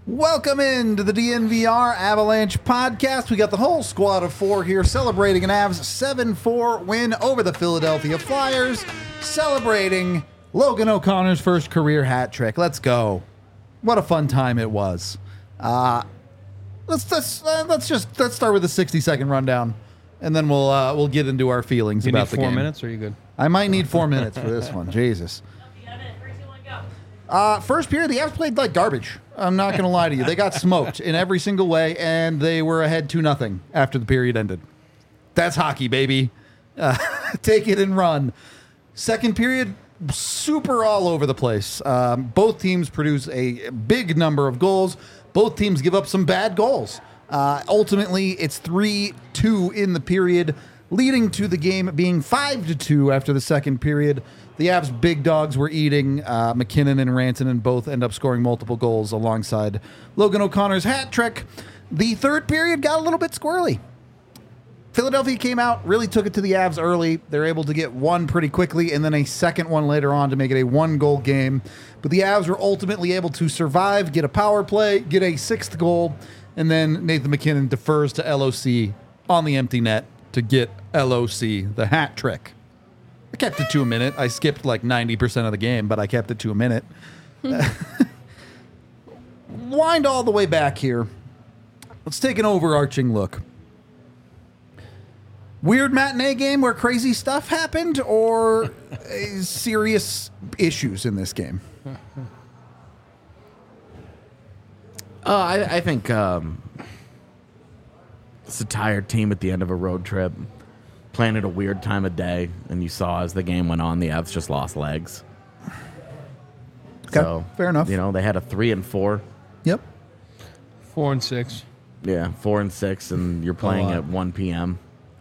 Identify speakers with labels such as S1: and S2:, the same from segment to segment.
S1: Welcome into the DNVR Avalanche podcast. We got the whole squad of four here celebrating an Avs 7-4 win over the Philadelphia Flyers, celebrating Logan O'Connor's first career hat trick. Let's go. What a fun time it was. Let's start with the 60-second rundown, and then we'll get into our feelings about the game.
S2: You need 4 minutes, or are you good?
S1: I might need 4 minutes for this one. Jesus. First period, the Avs played like garbage. I'm not going to lie to you. They got smoked in every single way, and they were ahead 2-0 after the period ended. That's hockey, baby. Take it and run. Second period, super all over the place. Both teams produce a big number of goals. Both teams give up some bad goals. Ultimately, it's 3-2 in the period, leading to the game being 5-2 after the second period. The Avs' big dogs were eating. McKinnon and Rantanen both end up scoring multiple goals alongside Logan O'Connor's hat trick. The third period got a little bit squirrely. Philadelphia came out, really took it to the Avs early. They're able to get one pretty quickly and then a second one later on to make it a one-goal game. But the Avs were ultimately able to survive, get a power play, get a sixth goal, and then Nathan McKinnon defers to LOC on the empty net to get LOC the hat trick. I kept it to a minute. I skipped like 90% of the game, but I kept it to a minute. Wind all the way back here. Let's take an overarching look. Weird matinee game where crazy stuff happened, or serious issues in this game?
S3: I think it's a tired team at the end of a road trip. Playing at a weird time of day, and you saw as the game went on, the Avs just lost legs.
S1: Okay,
S3: so
S1: fair enough.
S3: You know, they had a 3-4.
S1: Yep.
S2: 4 and 6.
S3: Yeah, 4 and 6, and you're playing at 1 p.m.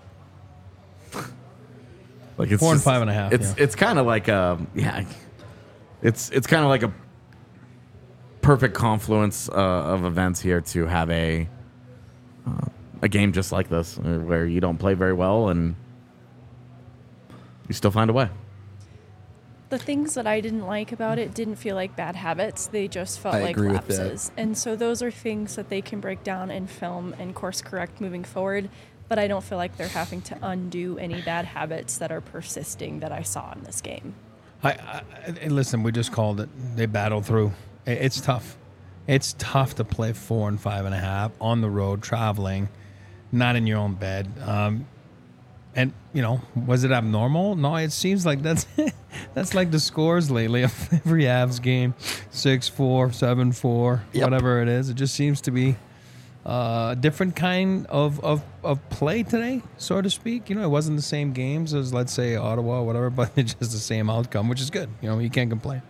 S3: Like it's
S2: 4 and
S3: just,
S2: 5.5.
S3: It's kind of like it's kind of like a perfect confluence of events here to have a game just like this, where you don't play very well and you still find a way.
S4: The things that I didn't like about it didn't feel like bad habits. They just felt like lapses. And so those are things that they can break down in film and course correct moving forward. But I don't feel like they're having to undo any bad habits that are persisting that I saw in this game.
S2: And listen, we just called it. They battled through. It's tough. It's tough to play 4 and 5.5 on the road, traveling, not in your own bed. And, you know, was it abnormal? No, it seems like that's like the scores lately of every Avs game. 6-4, 7-4, whatever it is. It just seems to be a different kind of play today, so to speak. You know, it wasn't the same games as, let's say, Ottawa or whatever, but it's just the same outcome, which is good. You know, you can't complain.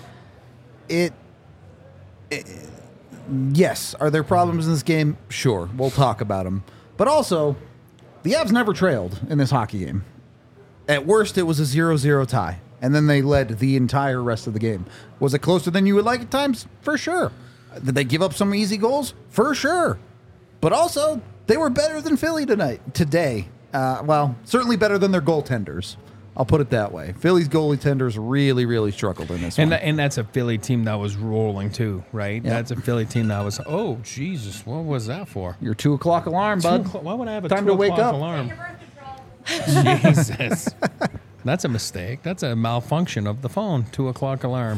S1: Yes. Are there problems in this game? Sure. We'll talk about them. But also, the Avs never trailed in this hockey game. At worst, it was a 0-0 tie, and then they led the entire rest of the game. Was it closer than you would like at times? For sure. Did they give up some easy goals? For sure. But also, they were better than Philly today. Well, certainly better than their goaltenders. I'll put it that way. Philly's goaltenders really, really struggled in this one.
S2: And that's a Philly team that was rolling too, right?
S1: Yep.
S2: That's a Philly team that was, oh, Jesus, what was that for?
S1: Your 2 o'clock alarm, bud.
S2: Why would I have a
S1: Time
S2: 2
S1: to wake
S2: o'clock
S1: up.
S2: alarm? Jesus. That's a mistake. That's a malfunction of the phone, 2 o'clock alarm.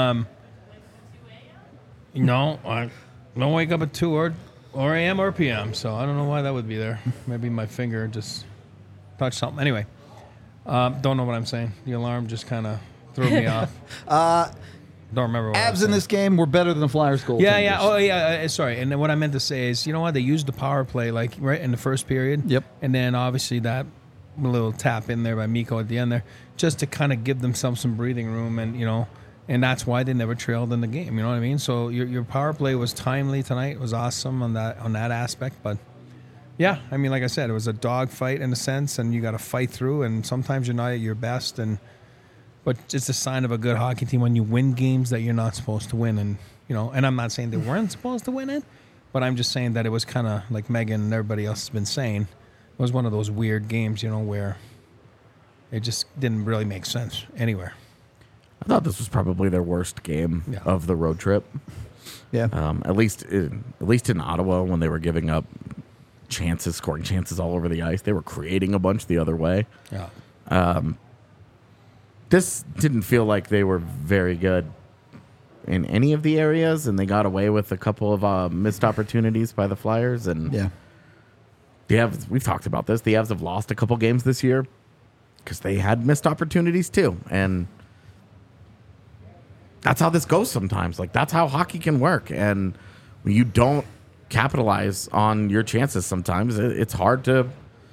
S2: No, I don't wake up at 2 or a.m. or p.m., so I don't know why that would be there. Maybe my finger just touched something. Anyway. Don't know what I'm saying. The alarm just kind of threw me off. Don't remember what I was
S1: Avs
S2: saying.
S1: in this game were better than the Flyers goaltenders.
S2: Yeah. Oh, yeah. Sorry. And then what I meant to say is, you know what? They used the power play, like, right in the first period.
S1: Yep.
S2: And then, obviously, that little tap in there by Mikko at the end there, just to kind of give themselves some breathing room. And, you know, and that's why they never trailed in the game. You know what I mean? So your power play was timely tonight. It was awesome on that aspect. But, yeah, I mean, like I said, it was a dog fight in a sense, and you got to fight through, and sometimes you're not at your best, but it's a sign of a good hockey team when you win games that you're not supposed to win, and you know. And I'm not saying they weren't supposed to win it, but I'm just saying that it was kind of like Megan and everybody else has been saying, it was one of those weird games, you know, where it just didn't really make sense anywhere.
S3: I thought this was probably their worst game of the road trip.
S1: Yeah.
S3: At least in Ottawa, when they were giving up chances, scoring chances all over the ice, they were creating a bunch the other way.
S2: Yeah.
S3: This didn't feel like they were very good in any of the areas, and they got away with a couple of missed opportunities by the Flyers. And
S1: Yeah.
S3: the Avs, we've talked about this. The Avs have lost a couple games this year because they had missed opportunities too, and that's how this goes sometimes. Like, that's how hockey can work, and when you don't capitalize on your chances sometimes, it's hard to.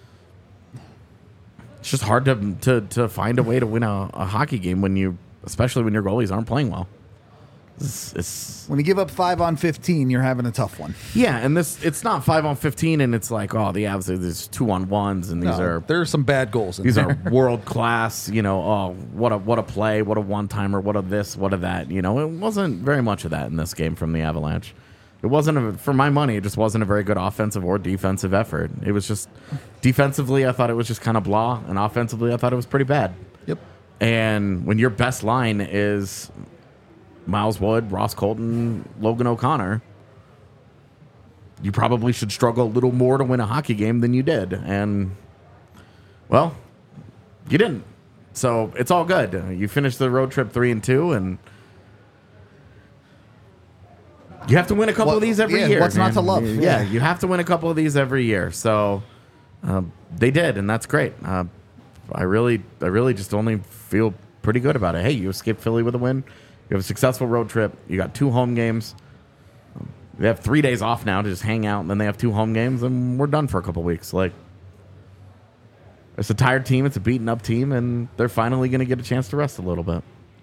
S3: It's just hard to find a way to win a hockey game especially when your goalies aren't playing well.
S1: When you give up 5 on 15, you're having a tough one.
S3: Yeah, and it's not 5 on 15, and it's like, oh, the Avs are there's 2 on 1s, and
S1: there are some bad goals.
S3: These are world class. Oh, what a play, what a one timer, what a this, what a that. It wasn't very much of that in this game from the Avalanche. It wasn't, for my money, it just wasn't a very good offensive or defensive effort. It was just, defensively, I thought it was just kind of blah, and offensively, I thought it was pretty bad.
S1: Yep.
S3: And when your best line is Miles Wood, Ross Colton, Logan O'Connor, you probably should struggle a little more to win a hockey game than you did. And, well, you didn't. So it's all good. You finished the road trip 3-2, and you have to win a couple of these every year.
S1: What's not to love?
S3: Yeah, you have to win a couple of these every year. So they did, and that's great. I really just only feel pretty good about it. Hey, you escaped Philly with a win. You have a successful road trip. You got 2 home games. They have 3 days off now to just hang out, and then they have 2 home games, and we're done for a couple weeks. Like, it's a tired team. It's a beaten-up team, and they're finally going to get a chance to rest a little bit.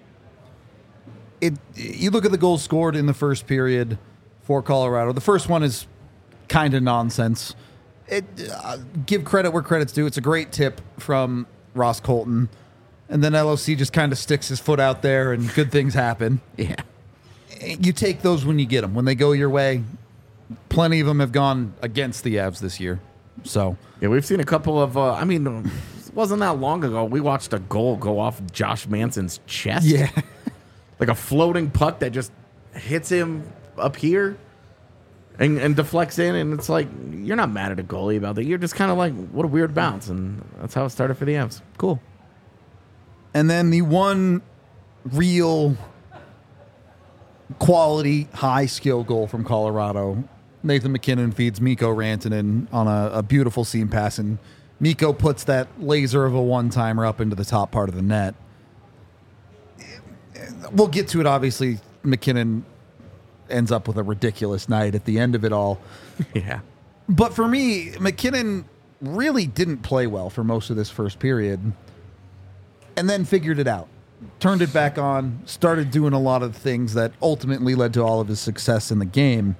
S1: You look at the goals scored in the first period for Colorado. The first one is kind of nonsense. Give credit where credit's due. It's a great tip from Ross Colton. And then LOC just kind of sticks his foot out there and good things happen.
S3: Yeah.
S1: You take those when you get them. When they go your way, plenty of them have gone against the Avs this year. So
S3: yeah, we've seen a couple of, it wasn't that long ago. We watched a goal go off Josh Manson's chest.
S1: yeah.
S3: Like a floating puck that just hits him up here and deflects in. And it's like, you're not mad at a goalie about that. You're just kind of like, what a weird bounce. And that's how it started for the Avs.
S1: Cool. And then the one real quality, high skill goal from Colorado. Nathan MacKinnon feeds Mikko Rantanen on a beautiful seam pass, and Mikko puts that laser of a one-timer up into the top part of the net. We'll get to it, obviously. MacKinnon ends up with a ridiculous night at the end of it all.
S3: Yeah.
S1: But for me, MacKinnon really didn't play well for most of this first period, and then figured it out. Turned it back on, started doing a lot of things that ultimately led to all of his success in the game.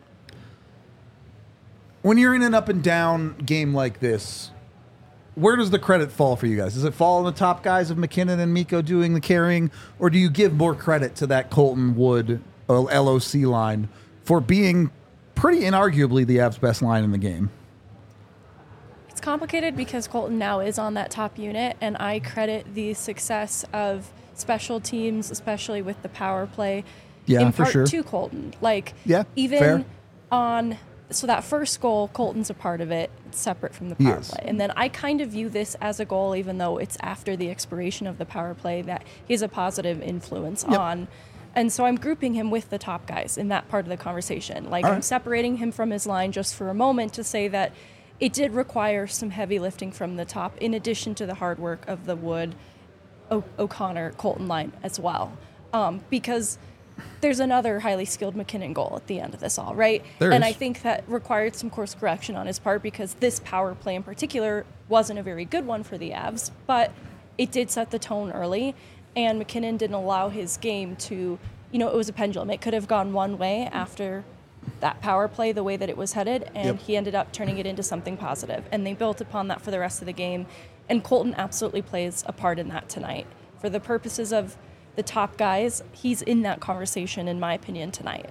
S1: When you're in an up and down game like this, where does the credit fall for you guys? Does it fall on the top guys of MacKinnon and Mikko doing the carrying, or do you give more credit to that Colton Wood LOC line for being pretty inarguably the Avs' best line in the game?
S4: It's complicated because Colton now is on that top unit, and I credit the success of special teams, especially with the power play, in
S1: for
S4: part
S1: sure.
S4: to Colton. Like,
S1: Yeah,
S4: even
S1: fair.
S4: So that first goal, Colton's a part of it, separate from the
S1: He
S4: power
S1: is.
S4: play. And then I kind of view this as a goal, even though it's after the expiration of the power play, that he's a positive influence on. And so I'm grouping him with the top guys in that part of the conversation. Like,
S1: All
S4: I'm
S1: right.
S4: separating him from his line just for a moment to say that it did require some heavy lifting from the top, in addition to the hard work of the Wood, O'Connor, Colton line as well. Because there's another highly skilled MacKinnon goal at the end of this all, right?
S1: There
S4: and
S1: is.
S4: I think that required some course correction on his part, because this power play in particular wasn't a very good one for the Avs, but it did set the tone early, and MacKinnon didn't allow his game to, it was a pendulum. It could have gone one way after that power play, the way that it was headed, and he ended up turning it into something positive. And they built upon that for the rest of the game, and Colton absolutely plays a part in that tonight. For the purposes of the top guys, he's in that conversation, in my opinion, tonight.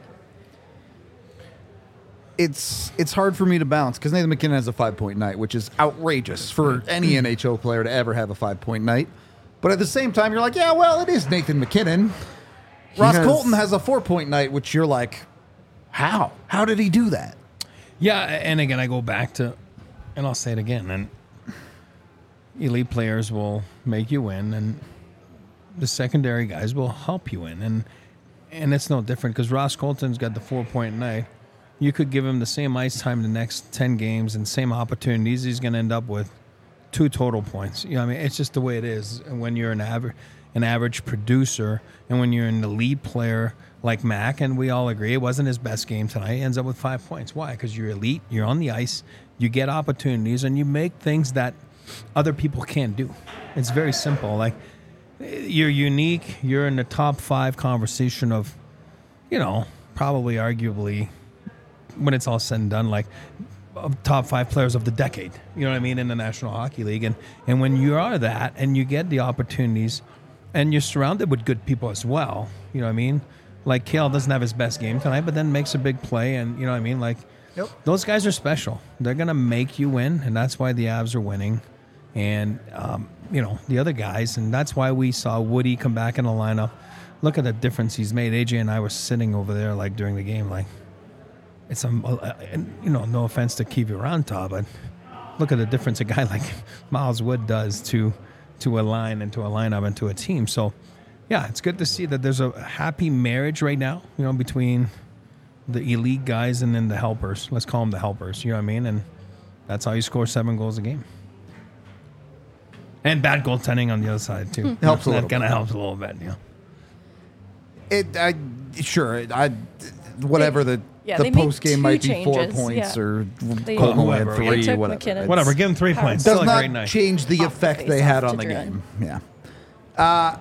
S1: It's hard for me to balance because Nathan MacKinnon has a 5-point night, which is outrageous for any NHL player to ever have a 5-point night. But at the same time, you're like, yeah, well, it is Nathan MacKinnon. Ross Colton has a 4-point night, which you're like, how? How did he do that?
S2: Yeah, and again, I go back to, and I'll say it again, and elite players will make you win, and the secondary guys will help you win, and it's no different because Ross Colton's got the 4-point night. You could give him the same ice time the next 10 games and same opportunities. He's going to end up with 2 total points. You know, I mean, it's just the way it is. And when you're an average producer, and when you're an elite player like Mac, and we all agree it wasn't his best game tonight, he ends up with 5 points. Why? Because you're elite, you're on the ice, you get opportunities, and you make things that other people can't do. It's very simple. Like, you're unique. You're in the top 5 conversation of, you know, probably arguably, when it's all said and done, like top 5 players of the decade, you know what I mean, in the National Hockey League. And when you are that and you get the opportunities and you're surrounded with good people as well, you know what I mean? Like Cale doesn't have his best game tonight, but then makes a big play, and you know what I mean? Like, those guys are special. They're going to make you win, and that's why the Avs are winning. And, you know, the other guys, and that's why we saw Woody come back in the lineup. Look at the difference he's made. AJ and I were sitting over there, like, during the game, like, it's you know, no offense to Kiviranta, but look at the difference a guy like Miles Wood does to a line and to a lineup and to a team. So, yeah, it's good to see that there's a happy marriage right now, you know, between the elite guys and then the helpers. Let's call them the helpers, you know what I mean? And that's how you score 7 goals a game. And bad goaltending on the other side, too.
S1: Helps a little
S2: bit. That kind of helps a little bit, yeah.
S1: Whatever the post game might be 4 points or Colton went 3, whatever.
S2: Whatever, give him 3 points.
S1: Does
S2: Still a
S1: not
S2: great night.
S1: change the effect they had on the game. Yeah.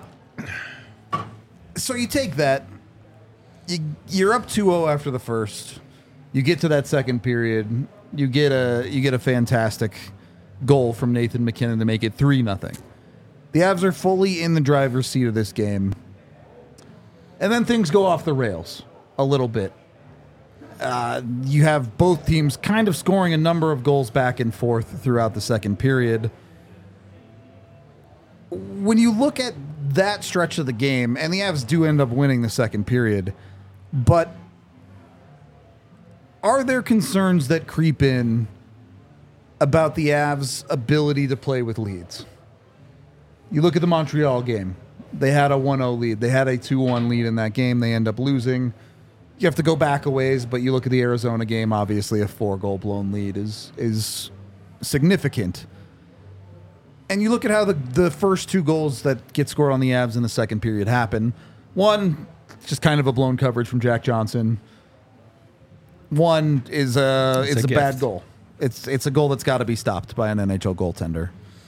S1: So you take that. You're up 2-0 after the first. You get to that second period. You get a fantastic goal from Nathan MacKinnon to make it 3-0. The Avs are fully in the driver's seat of this game. And then things go off the rails a little bit. You have both teams kind of scoring a number of goals back and forth throughout the second period. When you look at that stretch of the game, and the Avs do end up winning the second period, but are there concerns that creep in about the Avs' ability to play with leads? You look at the Montreal game. They had a 1-0 lead. They had a 2-1 lead in that game. They end up losing. You have to go back a ways, but you look at the Arizona game, obviously a 4-goal blown lead is significant. And you look at how the first 2 goals that get scored on the Avs in the second period happen. One, just kind of a blown coverage from Jack Johnson. One is a bad goal. It's a goal that's got to be stopped by an NHL goaltender.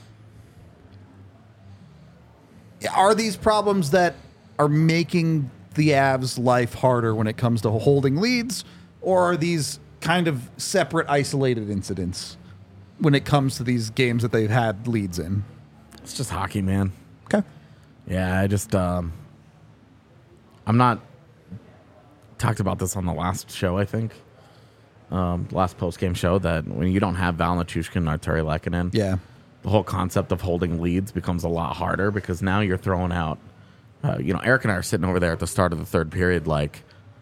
S1: Are these problems that are making the Avs' life harder when it comes to holding leads, or are these kind of separate, isolated incidents when it comes to these games that they've had leads in?
S3: It's just hockey, man.
S1: Okay.
S3: Yeah, I just I'm not talked about this on the last show, I think. Last post-game show, that when you don't have Val Nichushkin and Arturi Lehkonen, the whole concept of holding leads becomes a lot harder, because now you're throwing out, Eric and I are sitting over there at the start of the third period like,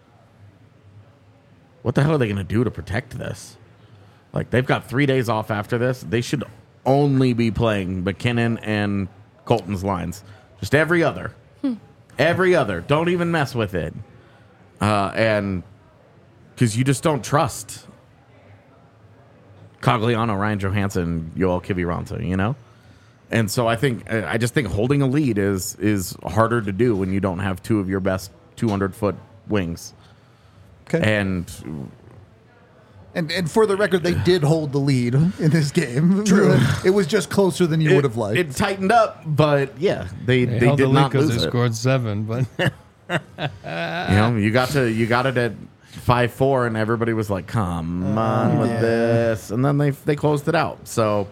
S3: what the hell are they going to do to protect this? Like, they've got 3 days off after this. They should only be playing MacKinnon and Colton's lines. Just every other. Every other. Don't even mess with it. And because you just don't trust Cogliano, Ryan Johansson, Joel Kiviranta, you know? And so I just think holding a lead is harder to do when you don't have 2 of your best 200-foot wings.
S1: Okay.
S3: And
S1: for the record, they did hold the lead in this game. True. It was just closer than you would have liked.
S3: It tightened up, but yeah, they
S2: held
S3: did
S2: the
S3: not lose
S2: they
S3: it.
S2: scored 7, but
S3: you got it at 5-4, and everybody was like, "Come on with this," and then they closed it out. So,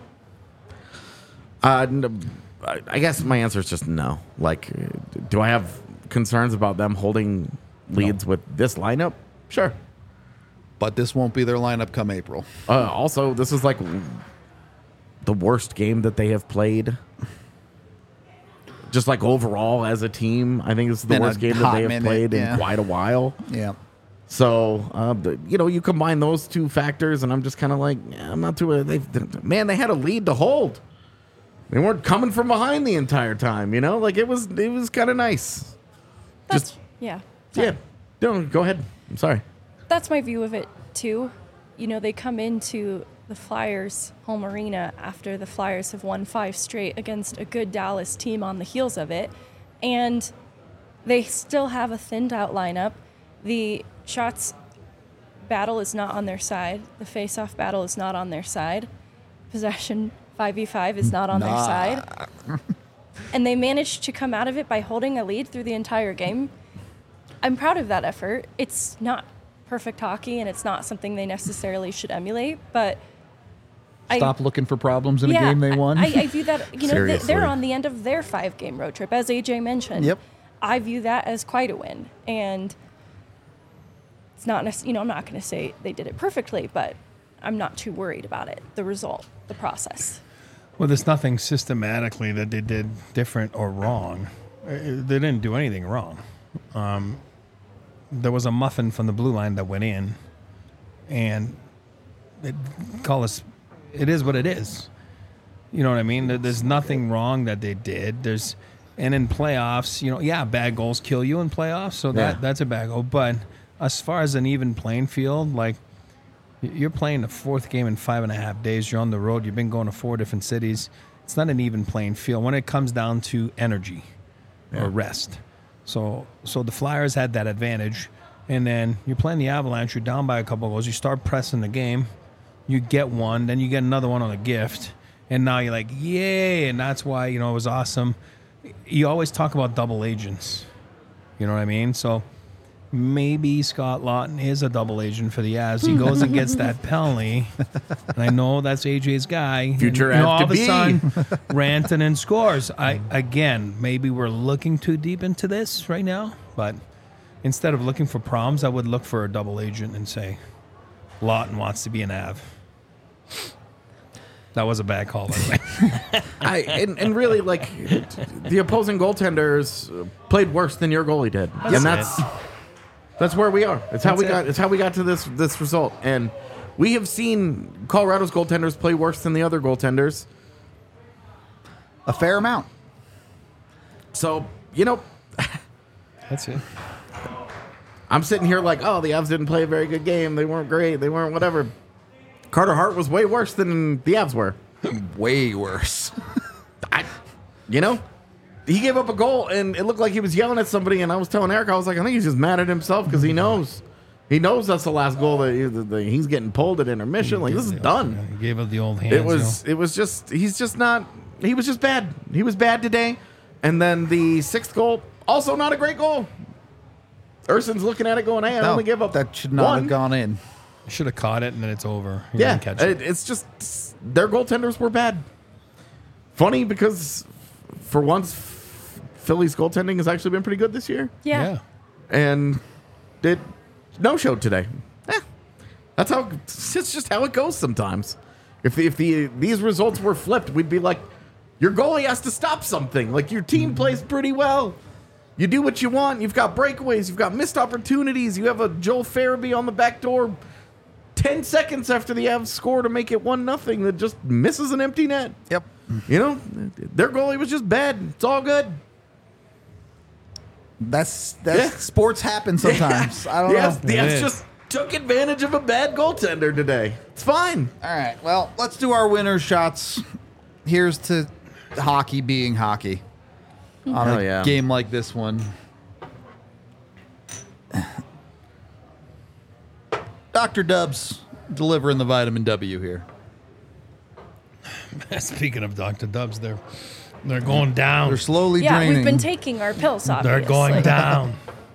S3: I guess my answer is just no. Like, do I have concerns about them holding leads with this lineup? Sure.
S1: But this won't be their lineup come April.
S3: Also, this is like the worst game that they have played just like overall as a team, I think this is the
S1: Been a
S3: worst game that
S1: hot
S3: they have
S1: minute,
S3: played
S1: yeah.
S3: in quite a while.
S1: Yeah.
S3: So, you combine those two factors, and I'm just kind of like, I'm not too. They had a lead to hold. They weren't coming from behind the entire time. Like it was kind of nice.
S4: That's, yeah.
S3: Yeah. No, go ahead. I'm sorry.
S4: That's my view of it, too. They come into the Flyers' home arena after the Flyers have won 5 straight against a good Dallas team on the heels of it, and they still have a thinned-out lineup. The shots battle is not on their side. The face-off battle is not on their side. Possession 5v5 is not on their side. And they managed to come out of it by holding a lead through the entire game. I'm proud of that effort. It's not perfect hockey, and it's not something they necessarily should emulate, but
S1: Stop looking for problems in a game they won.
S4: I view that,
S3: Seriously.
S4: they're on the end of their 5-game road trip, as AJ mentioned.
S1: Yep.
S4: I view that as quite a win. And it's not, I'm not going to say they did it perfectly, but I'm not too worried about it, the result, the process.
S2: Well, there's nothing systematically that they did different or wrong. They didn't do anything wrong. There was a muffin from the blue line that went in, and it is what it is. You know what I mean? There's nothing wrong that they did. And in playoffs, bad goals kill you in playoffs, so that's a bad goal. But as far as an even playing field, like, you're playing the 4th game in 5.5 days. You're on the road. You've been going to 4 different cities. It's not an even playing field when it comes down to energy or rest. So the Flyers had that advantage. And then you're playing the Avalanche. You're down by a couple of goals. You start pressing the game. You get one. Then you get another one on a gift. And now you're like, yay. And that's why, it was awesome. You always talk about double agents. You know what I mean? So maybe Scott Lawton is a double agent for the Avs. He goes and gets that penalty. And I know that's AJ's guy.
S3: Future
S2: and,
S3: Av
S2: all
S3: to
S2: of a
S3: be.
S2: sudden, Rantanen scores. Maybe we're looking too deep into this right now. But instead of looking for problems, I would look for a double agent and say, Lawton wants to be an Av. That was a bad call, by the way.
S3: And really, like, the opposing goaltenders played worse than your goalie did. That's where we are. It's how we got to this result. And we have seen Colorado's goaltenders play worse than the other goaltenders.
S1: A fair amount.
S3: So,
S2: That's it.
S3: I'm sitting here like, oh, the Avs didn't play a very good game. They weren't great. They weren't whatever. Carter Hart was way worse than the Avs were.
S1: Way worse.
S3: He gave up a goal, and it looked like he was yelling at somebody, and I was telling Eric, I was like, I think he's just mad at himself because he knows. He knows that's the last goal that he's getting pulled at intermission. Like, this is done.
S2: He gave up the old hands.
S3: It was just, he was just bad. He was bad today. And then the 6th goal, also not a great goal. Urson's looking at it going, hey, I only give up
S1: that should not
S3: one.
S1: have gone in.
S2: Should have caught it, and then it's over. He
S3: Yeah,
S2: didn't catch it.
S3: it's just, their goaltenders were bad. Funny because for once, Philly's goaltending has actually been pretty good this year.
S4: Yeah.
S3: And it no-showed today. It's just how it goes sometimes. If these results were flipped, we'd be like, your goalie has to stop something. Like, your team plays pretty well. You do what you want. You've got breakaways. You've got missed opportunities. You have a Joel Farabee on the back door 10 seconds after the Avs score to make it 1-0 that just misses an empty net.
S1: Yep.
S3: Their goalie was just bad. It's all good.
S1: That's sports happen sometimes. I don't know.
S3: The Avs just took advantage of a bad goaltender today. It's fine.
S1: All right. Well, let's do our winner shots. Here's to hockey being hockey on a game like this one. Dr. Dubs delivering the vitamin W here.
S2: Speaking of Dr. Dubs, they're going down.
S1: They're slowly
S4: Yeah,
S1: draining.
S4: we've been taking our pills, obviously.
S2: They're going down.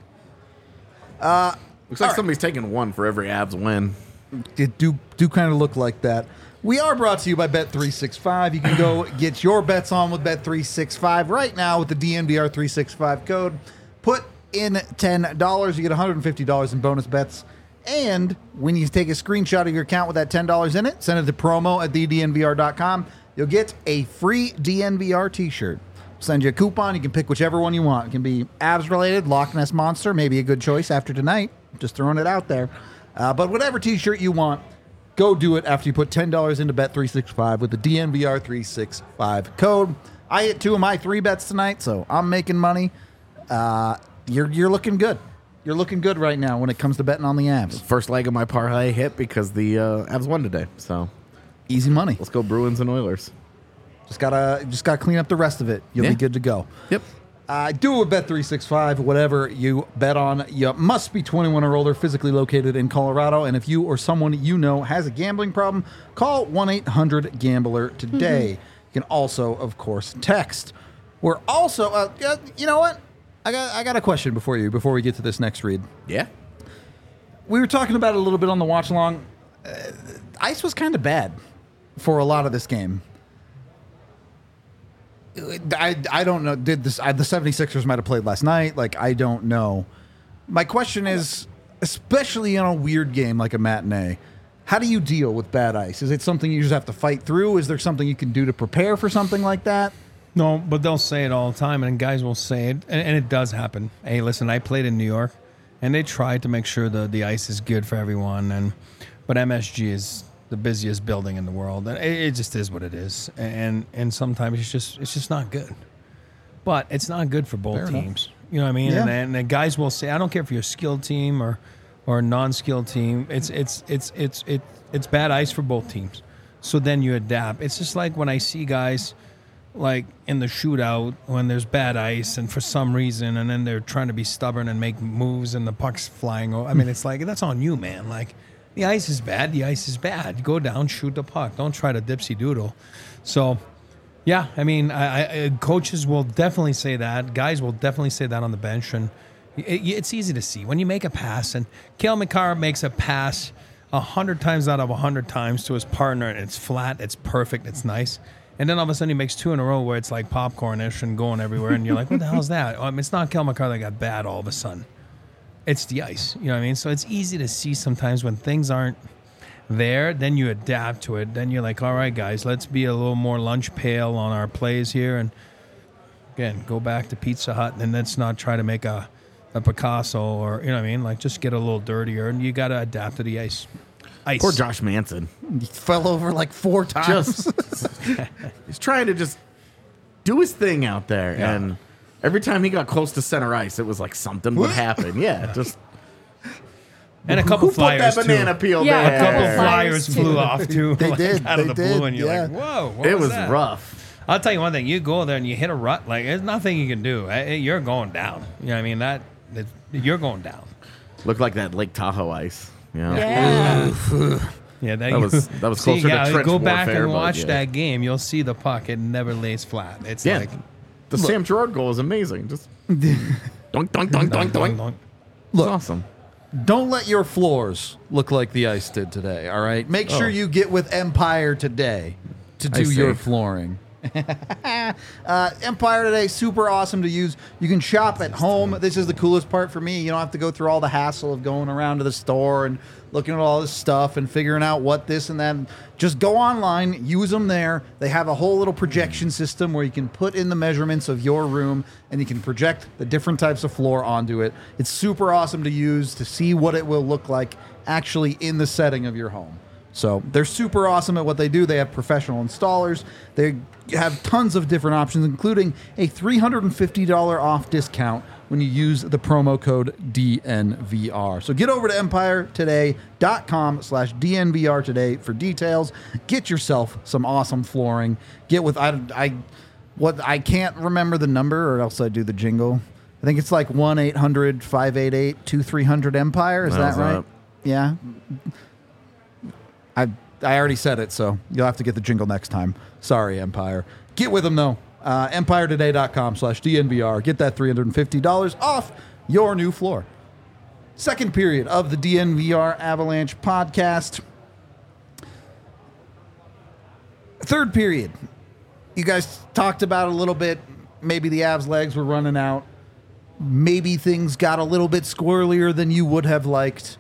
S3: Looks like somebody's taking one for every Avs win.
S1: It do kind of look like that. We are brought to you by Bet365. You can go get your bets on with Bet365 right now with the DNVR365 code. Put in $10. You get $150 in bonus bets. And when you take a screenshot of your account with that $10 in it, send it to promo@thednvr.com. You'll get a free DNVR t-shirt. Send you a coupon. You can pick whichever one you want. It can be Avs related, Loch Ness Monster, maybe a good choice after tonight. Just throwing it out there. But whatever t-shirt you want, go do it after you put $10 into Bet365 with the DNVR365 code. I hit 2 of my 3 bets tonight, so I'm making money. You're looking good. You're looking good right now when it comes to betting on the Avs.
S3: First leg of my parlay hit because the Avs won today. So
S1: Easy money.
S3: let's go Bruins and Oilers.
S1: Just gotta clean up the rest of it. You'll be good to go.
S3: Yep.
S1: Do a Bet365, whatever you bet on. You must be 21 or older, physically located in Colorado. And if you or someone you know has a gambling problem, call 1-800-GAMBLER today. You can also, of course, text. We're also, you know what? I got a question before we get to this next read.
S3: Yeah.
S1: We were talking about it a little bit on the watch along. Ice was kind of bad for a lot of this game. I don't know. Did this? The 76ers might have played last night. Like, I don't know. My question is, especially in a weird game like a matinee, how do you deal with bad ice? Is it something you just have to fight through? Is there something you can do to prepare for something like that?
S2: No, but they'll say it all the time, and guys will say it, and it does happen. Hey, listen, I played in New York, and they tried to make sure the ice is good for everyone, but MSG is the busiest building in the world, and it just is what it is, and sometimes it's just not good. But it's not good for both teams. You know what I mean?
S1: Yeah.
S2: And the guys will say, I don't care if you're a skilled team or a non-skilled team. It's bad ice for both teams. So then you adapt. It's just like when I see guys like in the shootout when there's bad ice and for some reason, and then they're trying to be stubborn and make moves and the puck's flying over. I mean, it's like, that's on you, man. Like, the ice is bad. The ice is bad. Go down, shoot the puck. Don't try to dipsy doodle. So, yeah, I mean, coaches will definitely say that. Guys will definitely say that on the bench. And it's easy to see. When you make a pass, and Cale Makar makes a pass 100 times out of 100 times to his partner, and it's flat, it's perfect, it's nice. And then all of a sudden he makes 2 in a row where it's like popcornish and going everywhere, and you're like, what the hell is that? It's not Cale Makar that got bad all of a sudden. It's the ice. You know what I mean? So it's easy to see sometimes when things aren't there, then you adapt to it. Then you're like, all right, guys, let's be a little more lunch pail on our plays here. And again, go back to Pizza Hut, and let's not try to make a Picasso, or, you know what I mean? Like, just get a little dirtier, and you got to adapt to the ice.
S3: Poor Josh Manson.
S1: He fell over like 4 times.
S3: He's trying to just do his thing out there.
S2: Yeah.
S3: And every time he got close to center ice, it was like something would happen. Yeah, just...
S2: And a couple
S3: Who put
S2: flyers,
S3: that banana peel
S4: Yeah,
S3: there?
S4: a couple
S2: flyers
S4: too.
S2: flew off, too.
S1: They did.
S2: Out of
S1: They
S2: the blue,
S1: did,
S2: and you're
S1: yeah.
S2: like, whoa, what
S3: It was
S2: that?
S3: rough.
S2: I'll tell you one thing. You go there and you hit a rut, like, there's nothing you can do. You're going down. You know what I mean? You're going down.
S3: Looked like that Lake Tahoe ice. You know?
S4: Yeah.
S2: Yeah,
S3: That was closer to trench
S2: go back
S3: warfare,
S2: and
S3: but
S2: watch
S3: yeah.
S2: that game. You'll see the puck. It never lays flat. It's
S3: Yeah.
S2: like
S3: The Sam Girard goal is amazing. Just doink, doink, doink, doink, doink. It's
S1: Look,
S3: awesome.
S1: don't let your floors look like the ice did today, all right? Make sure you get with Empire today to
S3: I
S1: do your
S3: see.
S1: flooring. Empire today, super awesome to use. You can shop at home. This is the coolest part for me. You don't have to go through all the hassle of going around to the store and looking at all this stuff and figuring out what this and that. Just go online, use them there. They have a whole little projection system where you can put in the measurements of your room and you can project the different types of floor onto it. It's super awesome to use to see what it will look like actually in the setting of your home. So they're super awesome at what they do. They have professional installers. They have tons of different options, including a $350 off discount when you use the promo code DNVR. So get over to empiretoday.com/DNVR today for details. Get yourself some awesome flooring. Get with I can't remember the number, or else I do the jingle. I think it's like 1-800-588-2300 Empire. Is that right? Yeah. I already said it, so you'll have to get the jingle next time. Sorry, Empire. Get with them, though. EmpireToday.com/DNVR. Get that $350 off your new floor. Second period of the DNVR Avalanche podcast. Third period. You guys talked about a little bit. Maybe the Avs' legs were running out. Maybe things got a little bit squirrelier than you would have liked.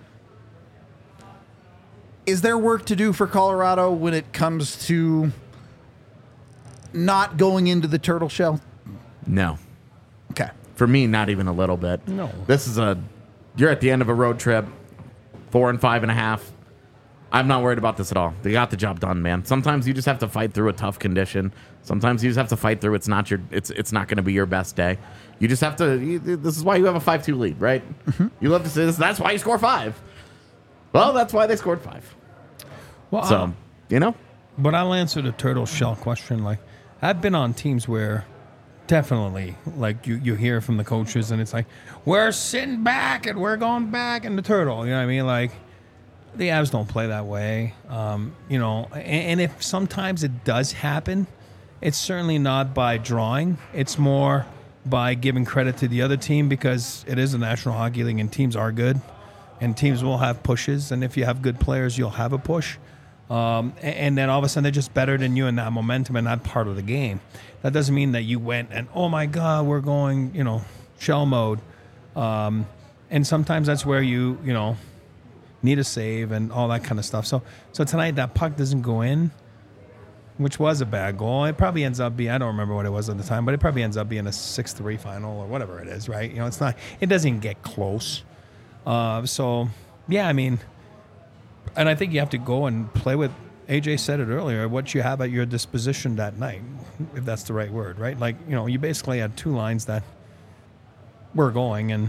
S1: Is there work to do for Colorado when it comes to not going into the turtle shell
S3: No.
S1: Okay.
S3: For me, not even a little bit.
S2: No.
S3: You're at the end of a road trip, 4 and 5.5. I'm not worried about this at all. They got the job done, man. Sometimes you just have to fight through a tough condition. Sometimes you just have to fight through it's not going to be your best day. You just have to. This is why you have a 5-2 lead, right? Mm-hmm. You love to say this. That's why you score 5. Well, that's why they scored 5.
S2: Well,
S3: So,
S2: But I'll answer the turtle shell question. Like, I've been on teams where definitely, like, you hear from the coaches and it's like, we're sitting back and we're going back in the turtle. You know what I mean? Like, the Avs don't play that way. And if sometimes it does happen, it's certainly not by drawing. It's more by giving credit to the other team because it is a National Hockey League and teams are good. And teams will have pushes. And if you have good players, you'll have a push. And then all of a sudden they're just better than you in that momentum and that part of the game. That doesn't mean that you went and, oh my God, we're going, shell mode. And sometimes that's where you need a save and all that kind of stuff. So tonight that puck doesn't go in, which was a bad goal. It probably ends up being, I don't remember what it was at the time, but it probably ends up being a 6-3 final or whatever it is, right? It's not, it doesn't even get close. Yeah, I mean, and I think you have to go and play with, AJ said it earlier, what you have at your disposition that night, if that's the right word, right? Like, you basically had 2 lines that were going and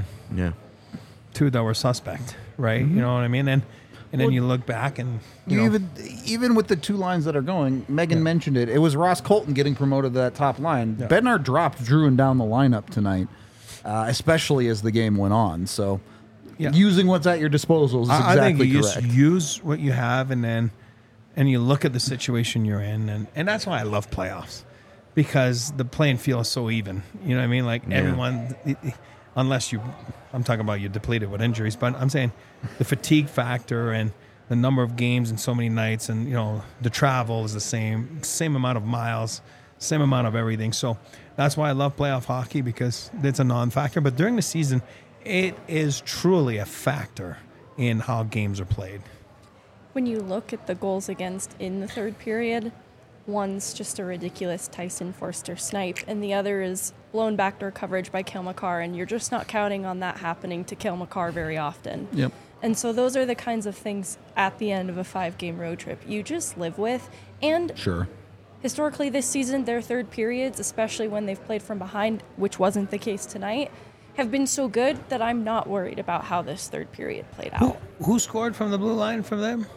S2: 2 that were suspect, right? Mm-hmm. You know what I mean? And then you look back and
S1: even with the 2 lines that are going, Megan mentioned it. It was Ross Colton getting promoted to that top line. Yeah. Bednar dropped Drouin down the lineup tonight, especially as the game went on. So using what's at your disposal is exactly
S2: I think you
S1: correct.
S2: Just use what you have and you look at the situation you're in, and that's why I love playoffs, because the playing field is so even. You know what I mean? Like everyone, unless I'm talking about you're depleted with injuries, but I'm saying the fatigue factor and the number of games and so many nights, and the travel is the same amount of miles, same amount of everything. So that's why I love playoff hockey, because it's a non-factor. But during the season, it is truly a factor in how games are played.
S4: When you look at the goals against in the third period, one's just a ridiculous Tyson Forster snipe, and the other is blown backdoor coverage by Cale Makar, and you're just not counting on that happening to Cale Makar very often.
S1: Yep.
S4: And so those are the kinds of things at the end of a 5-game road trip you just live with. And
S1: sure,
S4: historically this season, their third periods, especially when they've played from behind, which wasn't the case tonight, have been so good that I'm not worried about how this third period played out.
S2: Who scored from the blue line from them?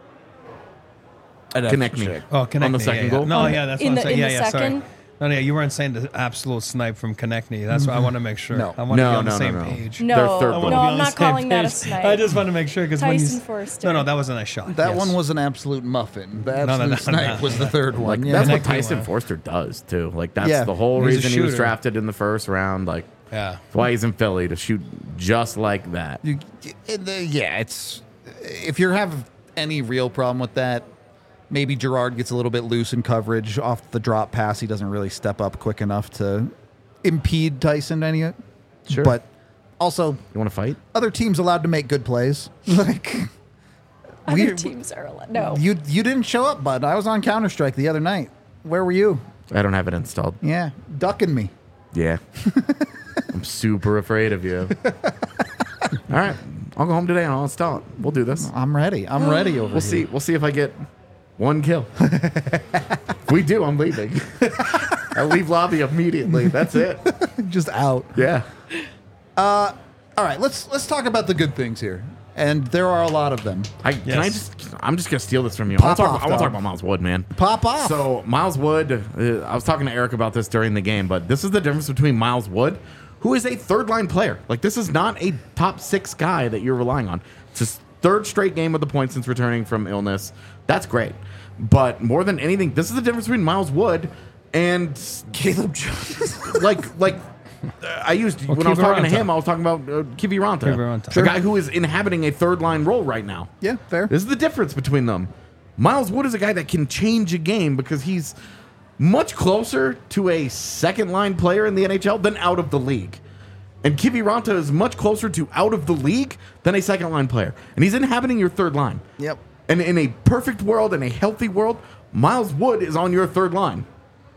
S3: Konechny.
S2: Oh, Konechny.
S3: On the second goal?
S2: No, that's what I'm saying.
S4: In the second?
S2: Sorry. No, you weren't saying the absolute snipe from Konechny. That's what I want to make sure.
S1: No.
S2: I want to be on the same page.
S4: No,
S3: Their third goal.
S4: I'm not calling that a snipe.
S2: I just want to make sure, because when
S4: Tyson Forster.
S2: No, that was a nice shot.
S1: that one was an absolute muffin. The absolute snipe was the third one.
S3: That's what
S2: Konechny
S3: Tyson
S2: won.
S3: Forster does, too. Like, that's the whole
S2: He's a
S3: reason he was
S2: shooter.
S3: drafted in the first round. Like,
S2: Yeah.
S3: that's why he's in Philly, to shoot just like that.
S1: It's if you have any real problem with that, maybe Gerard gets a little bit loose in coverage off the drop pass. He doesn't really step up quick enough to impede Tyson any.
S3: Sure.
S1: But also,
S3: You want to fight?
S1: other teams allowed to make good plays. Like
S4: Other teams are allowed. No.
S1: you didn't show up, bud. I was on Counter-Strike the other night. Where were you?
S3: I don't have it installed.
S1: Yeah, ducking me.
S3: Yeah. I'm super afraid of you. All right. I'll go home today and I'll install it. We'll do this.
S1: I'm ready. I'm ready over
S3: We'll
S1: here.
S3: see. We'll see if I get 1 kill. If we do, I'm leaving. I leave lobby immediately. That's it.
S1: Just out.
S3: Yeah.
S1: All right, let's talk about the good things here. And there are a lot of them.
S3: I'm just gonna steal this from you. I
S1: Pop
S3: want
S1: off,
S3: to talk
S1: dog.
S3: about Miles Wood, man.
S1: Pop off.
S3: So Miles Wood, I was talking to Eric about this during the game, but this is the difference between Miles Wood, who is a third-line player. Like, this is not a top 6 guy that you're relying on. It's his 3rd straight game with the points since returning from illness. That's great. But more than anything, this is the difference between Miles Wood and
S1: Caleb Jones.
S3: like I used when I was talking to him, I was talking about Kiviranta,
S2: Kiviranta.
S3: the guy who is inhabiting a 3rd-line role right now.
S1: Yeah, fair.
S3: This is the difference between them. Miles Wood is a guy that can change a game because he's much closer to a 2nd-line player in the NHL than out of the league. And Kiviranta is much closer to out of the league than a 2nd-line player. And he's inhabiting your 3rd line.
S1: Yep.
S3: And in a perfect world, in a healthy world, Miles Wood is on your 3rd line.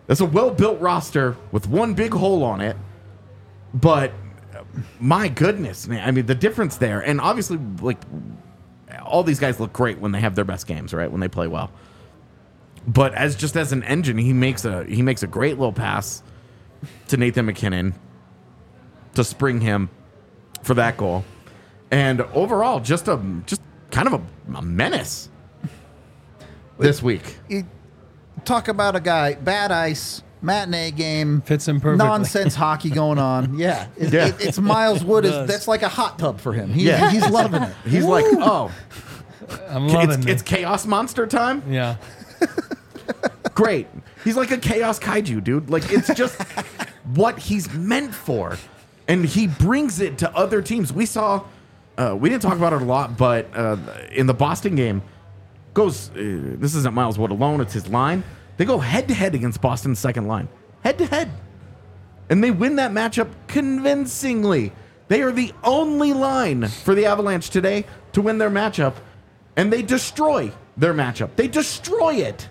S3: That's a well-built roster with one big hole on it. But my goodness, man. I mean, the difference there. And obviously, like, all these guys look great when they have their best games, right? When they play well. But as an engine, he makes a great little pass to Nathan MacKinnon to spring him for that goal. And overall, just kind of a menace this week.
S1: You talk about a guy, bad ice, matinee game.
S2: Fits him perfectly.
S1: Nonsense hockey going on. Yeah. It's Miles Wood. That's like a hot tub for him. He's loving it.
S3: He's like, oh,
S2: I'm loving
S3: it's Chaos Monster time?
S2: Yeah.
S3: Great. He's like a Chaos Kaiju, dude. Like, it's just what he's meant for. And he brings it to other teams. We saw, we didn't talk about it a lot, but in the Boston game, this isn't Miles Wood alone, it's his line. They go head-to-head against Boston's second line. Head-to-head. And they win that matchup convincingly. They are the only line for the Avalanche today to win their matchup. And they destroy their matchup. They destroy it.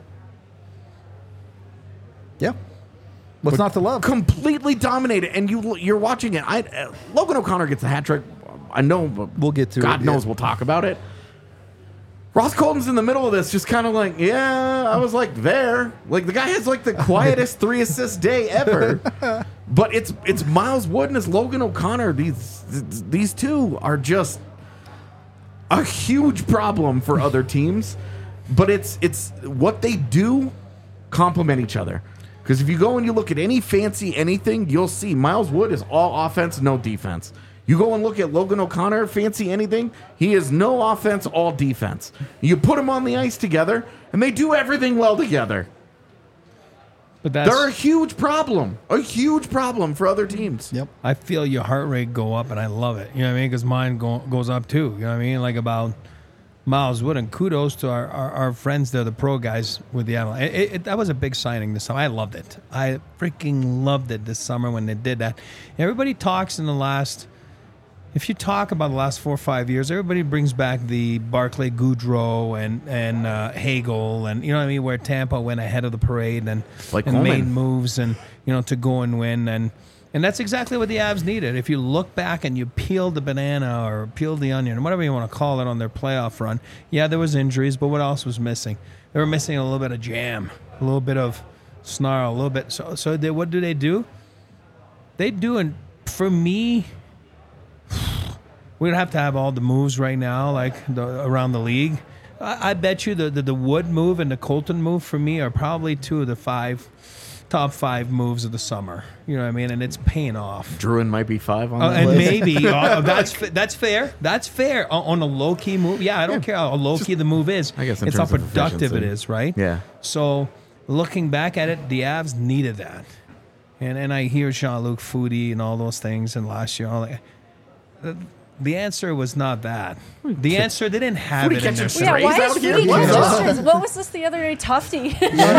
S1: Yeah. What's not to love?
S3: Completely dominated. And you're watching it. Logan O'Connor gets the hat trick. I know.
S1: We'll get to
S3: God
S1: it.
S3: knows we'll talk about it. Ross Colton's in the middle of this, just kind of like, yeah, I was like there. Like, the guy has like the quietest 3 assist day ever. But it's Miles Wood and it's Logan O'Connor. These two are just a huge problem for other teams. But it's what they do complement each other. Because if you go and you look at any fancy anything, you'll see Miles Wood is all offense, no defense. You go and look at Logan O'Connor, fancy anything, he is no offense, all defense. You put them on the ice together, and they do everything well together.
S2: But
S3: they're a huge problem for other teams.
S1: Yep.
S2: I feel your heart rate go up, and I love it. You know what I mean? Because mine goes up too. You know what I mean? Like about Miles Wood, and kudos to our friends there, the pro guys with the Avalanche. That was a big signing this summer. I loved it. I freaking loved it this summer when they did that. Everybody talks in the last... If you talk about the last 4 or 5 years, everybody brings back the Barclay Goodrow and Hagel, and you know what I mean, where Tampa went ahead of the parade and made moves and to go and win, and that's exactly what the Avs needed. If you look back and you peel the banana or peel the onion, or whatever you want to call it, on their playoff run, yeah, there was injuries, but what else was missing? They were missing a little bit of jam, a little bit of snarl, a little bit. So what do? They do, and for me. We don't have to have all the moves right now, like around the league. I bet you the Wood move and the Colton move for me are probably 2 of the top 5 moves of the summer. You know what I mean? And it's paying off.
S3: Druin might be 5 on that
S2: and
S3: list.
S2: Maybe that's fair. That's fair on a low key move. Yeah, I don't care how low key the move is.
S3: I guess
S2: it's how productive it is, right?
S3: Yeah.
S2: So looking back at it, the Avs needed that. And I hear Jean-Luc Foudy and all those things, and last year, the answer was not that. The answer, they didn't have it in their
S4: Yeah, why is Foudy catching? What was this the other day? Tufty.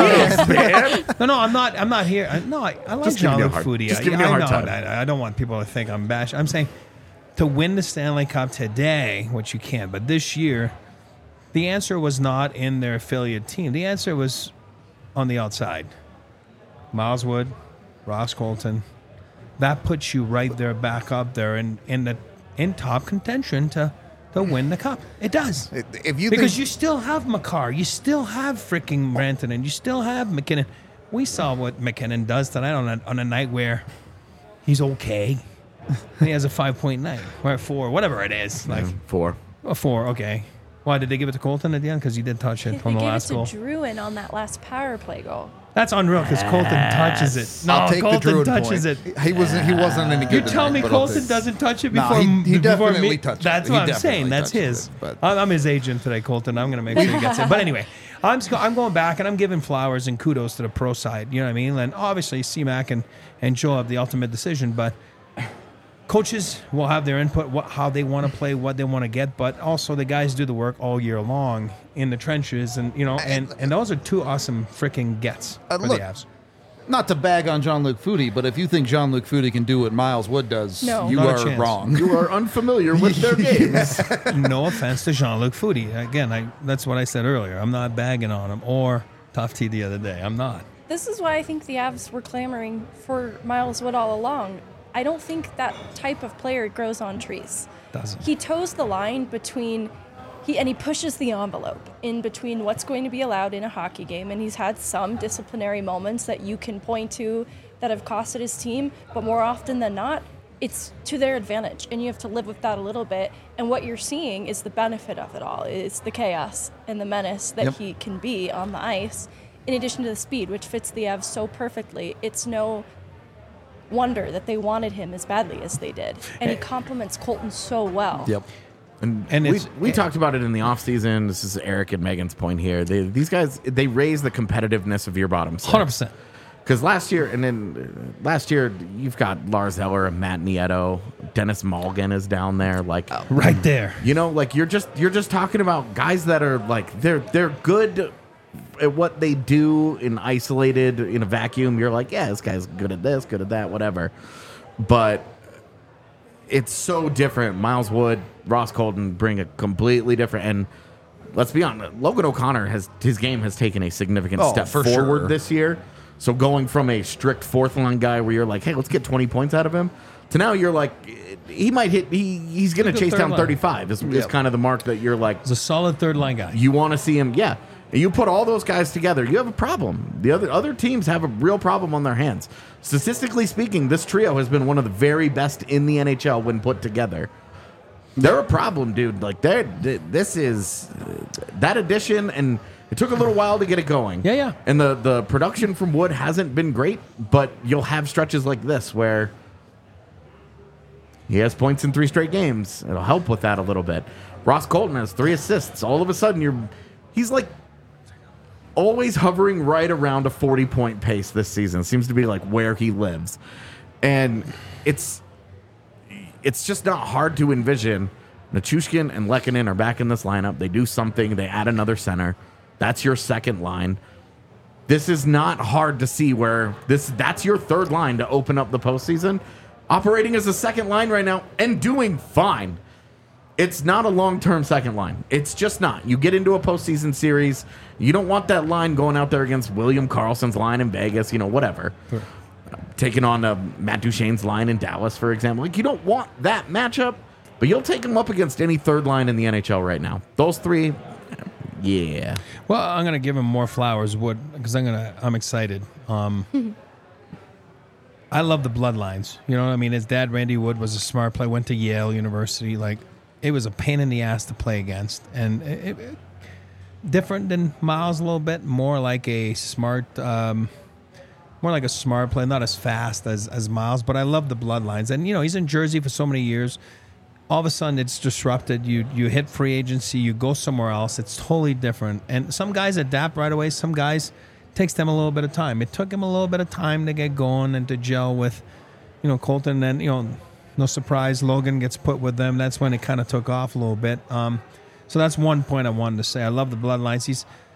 S2: No, I'm not here. No, I like Jean-Luc Foudy.
S3: Just give me a hard time.
S2: I don't want people to think I'm bashing. I'm saying to win the Stanley Cup today, which you can't, but this year, the answer was not in their affiliate team. The answer was on the outside. Miles Wood, Ross Colton. That puts you right there, back up there in top contention to win the cup. It does. Because you still have Makar, you still have freaking Rantanen, you still have MacKinnon. We saw what MacKinnon does tonight on a night where he's okay. And he has a 5.9 or a 4, whatever it is. Like
S3: 4.
S2: A 4, okay. Why did they give it to Colton at the end? Because he did touch it on the last goal.
S4: They gave it to Druin on that last power play goal.
S2: That's unreal because Colton touches it. No,
S1: I'll take
S2: Colton
S1: the
S2: touches
S1: point.
S2: it.
S1: He wasn't any good.
S2: You tell me
S1: tonight,
S2: Colton doesn't touch it before
S1: he
S2: before
S1: definitely
S2: me.
S1: touched it.
S2: That's
S1: He
S2: what I'm
S1: definitely
S2: saying. That's his.
S1: touched it,
S2: I'm his agent today, Colton. I'm going to make sure he gets it. But anyway, I'm going back and I'm giving flowers and kudos to the pro side. You know what I mean? And obviously, C-Mac and Joe have the ultimate decision, but coaches will have their input, how they want to play, what they want to get, but also the guys do the work all year long in the trenches, and and those are 2 awesome freaking gets for the Avs.
S1: Not to bag on Jean-Luc Foudy, but if you think Jean-Luc Foudy can do what Miles Wood does, you
S2: Not a
S1: are
S2: chance.
S1: wrong.
S3: You are unfamiliar with their games.
S2: No offense to Jean-Luc Foudy. Again, that's what I said earlier. I'm not bagging on him or Tufty the other day. I'm not.
S4: this is why I think the Avs were clamoring for Miles Wood all along. I don't think that type of player grows on trees.
S2: Doesn't.
S4: He toes the line between he pushes the envelope in between what's going to be allowed in a hockey game, and he's had some disciplinary moments that you can point to that have costed his team, but more often than not, it's to their advantage, and you have to live with that a little bit. And what you're seeing is the benefit of it all. It's the chaos and the menace that he can be on the ice, in addition to the speed, which fits the Avs so perfectly. It's no wonder that they wanted him as badly as they did. And he complements Colton so well.
S1: Yep.
S3: And we talked about it in the offseason. This is Eric and Megan's point here. These guys, they raise the competitiveness of your bottom six.
S2: 100%.
S3: Because last year, you've got Lars Eller and Matt Nieto. Dennis Malgin is down there, like
S2: right there.
S3: You know, like you're just talking about guys that are like they're good at what they do in isolated in a vacuum. You're like, yeah, this guy's good at this, good at that, whatever. But it's so different. Miles Wood, Ross Colton bring a completely different. And let's be honest, Logan O'Connor his game has taken a significant step forward this year. So going from a strict fourth line guy where you're like, hey, let's get 20 points out of him, to now you're like, he might hit. He's going to chase down 35. Is kind of the mark that you're like.
S2: He's a solid third line guy.
S3: You want to see him, yeah. You put all those guys together, you have a problem. The other teams have a real problem on their hands. Statistically speaking, this trio has been one of the very best in the NHL when put together. They're a problem, dude. Like this is that addition, and it took a little while to get it going.
S2: Yeah.
S3: And the production from Wood hasn't been great, but you'll have stretches like this where he has points in 3 straight games. It'll help with that a little bit. Ross Colton has 3 assists. All of a sudden, he's like always hovering right around a 40-point pace this season. It seems to be like where he lives. And it's just not hard to envision. Nichushkin and Lehkonen are back in this lineup. They do something. They add another center. That's your second line. This is not hard to see where that's your third line to open up the postseason. Operating as a second line right now and doing fine. It's not a long-term second line. It's just not. You get into a postseason series, you don't want that line going out there against William Karlsson's line in Vegas, whatever. Sure. Taking on Matt Duchene's line in Dallas, for example. Like, you don't want that matchup, but you'll take him up against any third line in the NHL right now. Those 3, yeah.
S2: Well, I'm gonna give him more flowers, Wood, because I'm excited. I love the bloodlines. You know what I mean? His dad, Randy Wood, was a smart player. Went to Yale University. Like, it was a pain in the ass to play against, and it different than Miles a little bit. More like a smart player, not as fast as Miles. But I love the bloodlines, and he's in Jersey for so many years. All of a sudden, it's disrupted. You hit free agency, you go somewhere else. It's totally different. And some guys adapt right away. Some guys, it takes them a little bit of time. It took him a little bit of time to get going and to gel with, Colton. And no surprise, Logan gets put with them. That's when it kind of took off a little bit. So that's one point I wanted to say. I love the bloodlines.